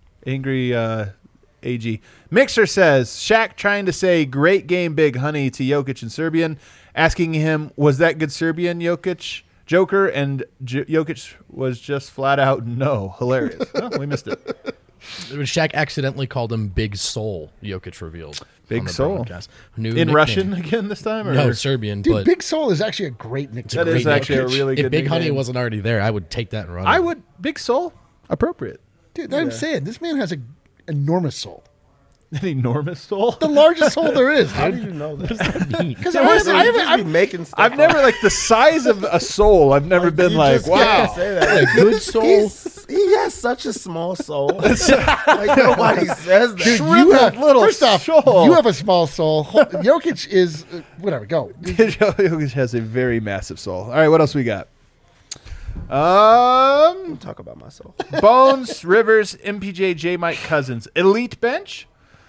AG. Mixer says, Shaq trying to say great game, big honey to Jokic in Serbian, asking him, was that good Serbian, Jokic? Joker, and Jokic was just flat out no. Hilarious. Oh, we missed it. Shaq accidentally called him Big Soul. Jokic revealed. Big on the Soul. broadcast. New In nickname. Russian again this time? Or? No, Serbian. Dude, but Big Soul is actually a great nickname. That is great actually a nickname. really good If Big Honey nickname. wasn't already there, I would take that and run. I it. would. Big Soul? Appropriate. Dude, I'm saying this man has an enormous soul. An enormous soul? The largest soul there is. How do you know that? Because You just be making stuff I've never, like, the size of a soul, I've never been You like, just can't wow. say that. Good soul. He has such a small soul. Like nobody says that. Dude, you Shriveled have, little first off, soul. you have a small soul. Jokic is whatever. Go. Jokic has a very massive soul. All right, what else we got? Talk about myself. Bones, Rivers, MPJ, J. Mike Cousins. Elite bench?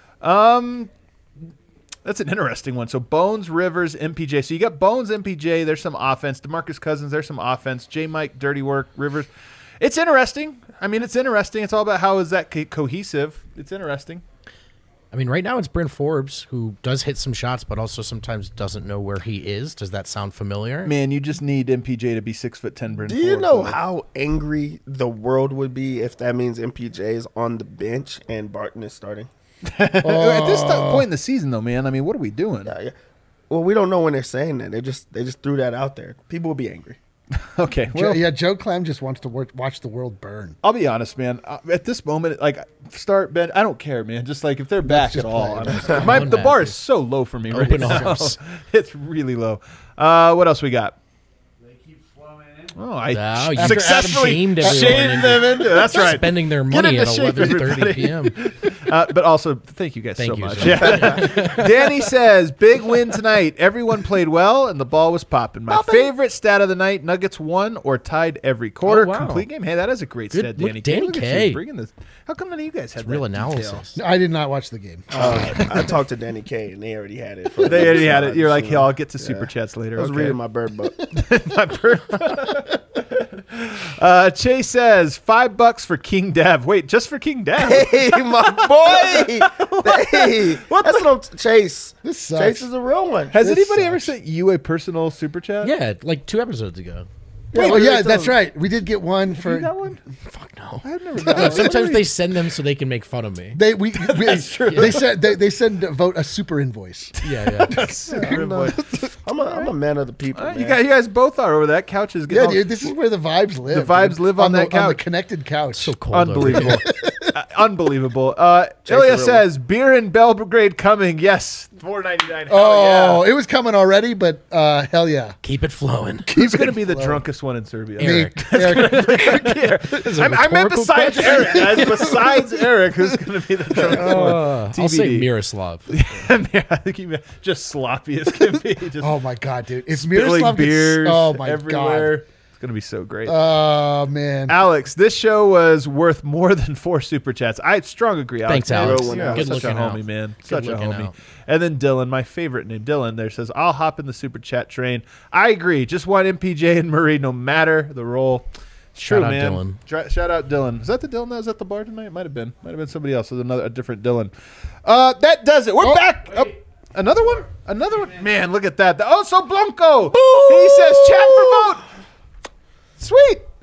That's an interesting one. So Bones, Rivers, MPJ. So you got Bones, MPJ. There's some offense. DeMarcus Cousins. There's some offense. J. Mike, dirty work. Rivers. It's interesting. I mean, it's interesting. It's all about how is that cohesive. It's interesting. I mean, right now it's Bryn Forbes, who does hit some shots, but also sometimes doesn't know where he is. Does that sound familiar? Man, you just need MPJ to be 6'10". Bryn Do you Forbes. know how angry the world would be if that means MPJ is on the bench and Barton is starting? At this point in the season, though, man, I mean, what are we doing? Yeah. Well, we don't know when they're saying that. They just threw that out there. People will be angry. Okay, well, Joe Clem just wants to watch the world burn. I'll be honest, man. At this moment, like start Ben, I don't care, man. Just like if they're back at just all, play. the bar is so low for me right Open now. arms. It's really low. What else we got? Oh, I Wow, you successfully shamed everyone shamed into them into that's right. spending their Get money into at shape, 11:30 everybody. p.m. But also, thank you guys Thank so you, much. sir. Yeah. Danny says, big win tonight. Everyone played well, and the ball was popping. My favorite stat of the night, Nuggets won or tied every quarter. Oh, wow. Complete game. Hey, that is a great Good- stat, look, Danny. Danny Look at K. you bringing this. How come none of you guys had Real that detail? analysis. I did not watch the game. I talked to Danny K and they already had it. For They already had it. You're like, yeah, hey, I'll get to super chats later. I was Okay. reading my bird book. My bird. Chase says $5 for King Dev. Wait, just for King Dev? Hey, my boy. Hey, that's what I'm Chase. This sucks. Chase is a real one. Has This anybody ever sucks. sent you a personal super chat? Yeah, like 2 episodes ago. Oh, Wait, yeah, wait, that's so- right. We did get one for. You got one? Fuck no. I've never got No, one. sometimes they send them so they can make fun of me. They true. They send vote a super invoice. Yeah, yeah. I'm a man of the people. You man. guys both are over that couch is Yeah, getting dude, this is where the vibes live. The vibes dude. live on that On the couch. connected couch. So cold. over unbelievable. here. Unbelievable. Chase Ilya the real says beer in Belgrade coming. Yes, $4.99. Oh, it was coming already, but hell yeah. Keep it flowing. Who's going to be the drunkest one in Serbia? Eric. Eric. I meant besides Eric, guys. Besides Eric, who's going to be the drunkest one? I'll say TBD. Miroslav. I think he just sloppy as can be. Just Oh my god, dude! If spilling Miroslav beers gets, oh my everywhere. god, It's going to be so great. oh man, Alex, this show was worth more than 4 super chats. I strong agree. Alex. Thanks, Alex. Real one, Yeah, Good such a looking homie, out. man. Good Such a looking homie. out. And then Dylan, my favorite name, Dylan, there says, I'll hop in the super chat train. I agree. Just want MPJ and Murray no matter the role. Shout True, out man. Dylan. Shout out Dylan. Is that the Dylan that was at the bar tonight? Might have been. Might have been somebody else. There's a different Dylan. That does it. We're back. Oh, another one? Another one? Man, look at that. Oh, so Blanco. He says, chat for vote. Sweet.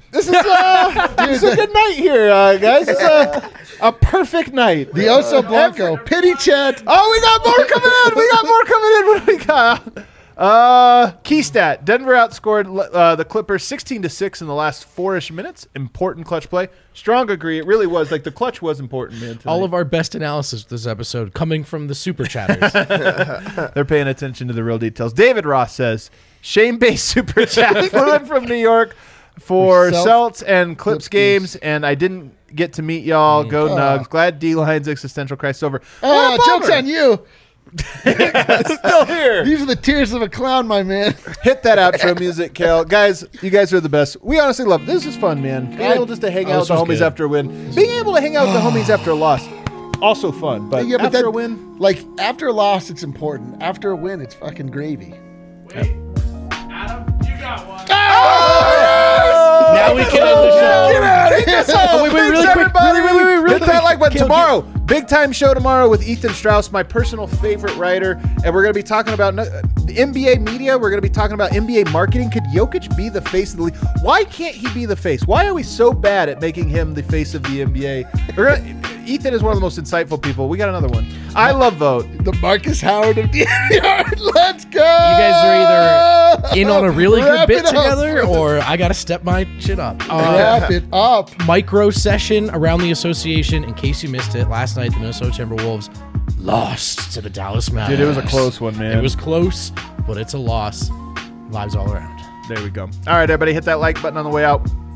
This is a good night here, guys. This is a perfect night. The Oso Blanco. Pity chat. Oh, we got more coming in. What do we got? Key stat. Denver outscored the Clippers 16-6 in the last 4-ish minutes. Important clutch play. Strong agree. It really was. Like, the clutch was important, man. Tonight. All of our best analysis this episode coming from the super chatters. They're paying attention to the real details. David Ross says, shame-based super chat. Flew in from New York for Celts and Clips games, and I didn't get to meet y'all. Go Nugs. Glad D-Line's existential crisis over. Joke's on you. Still here. These are the tears of a clown, my man. Hit that outro music, Kel. Guys, you guys are the best. We honestly love it. This is fun, man. Being able just to hang out with the homies good. after a win. Being able to hang out with the homies after a loss. Also fun. But after a win. Like, after a loss, it's important. After a win, it's fucking gravy. Wait, Adam, you got one. Now we can end the show. Get out of here. Wait, really quick. Really Hit that quick. like button Kill, tomorrow. Big time show tomorrow with Ethan Strauss, my personal favorite writer. And we're going to be talking about the NBA media. We're going to be talking about NBA marketing. Could Jokic be the face of the league? Why can't he be the face? Why are we so bad at making him the face of the NBA? Ethan is one of the most insightful people. We got another one. I love Vote. The Marcus Howard of the yard. Let's go. You guys are either in on a really good Wrap bit it up. together, or I got to step my shit up. Wrap it up. Micro session around the association. In case you missed it, last night the Minnesota Timberwolves lost to the Dallas Mavericks. Dude, it was a close one, man. It was close, but it's a loss. Vibes all around. There we go. All right, everybody, hit that like button on the way out.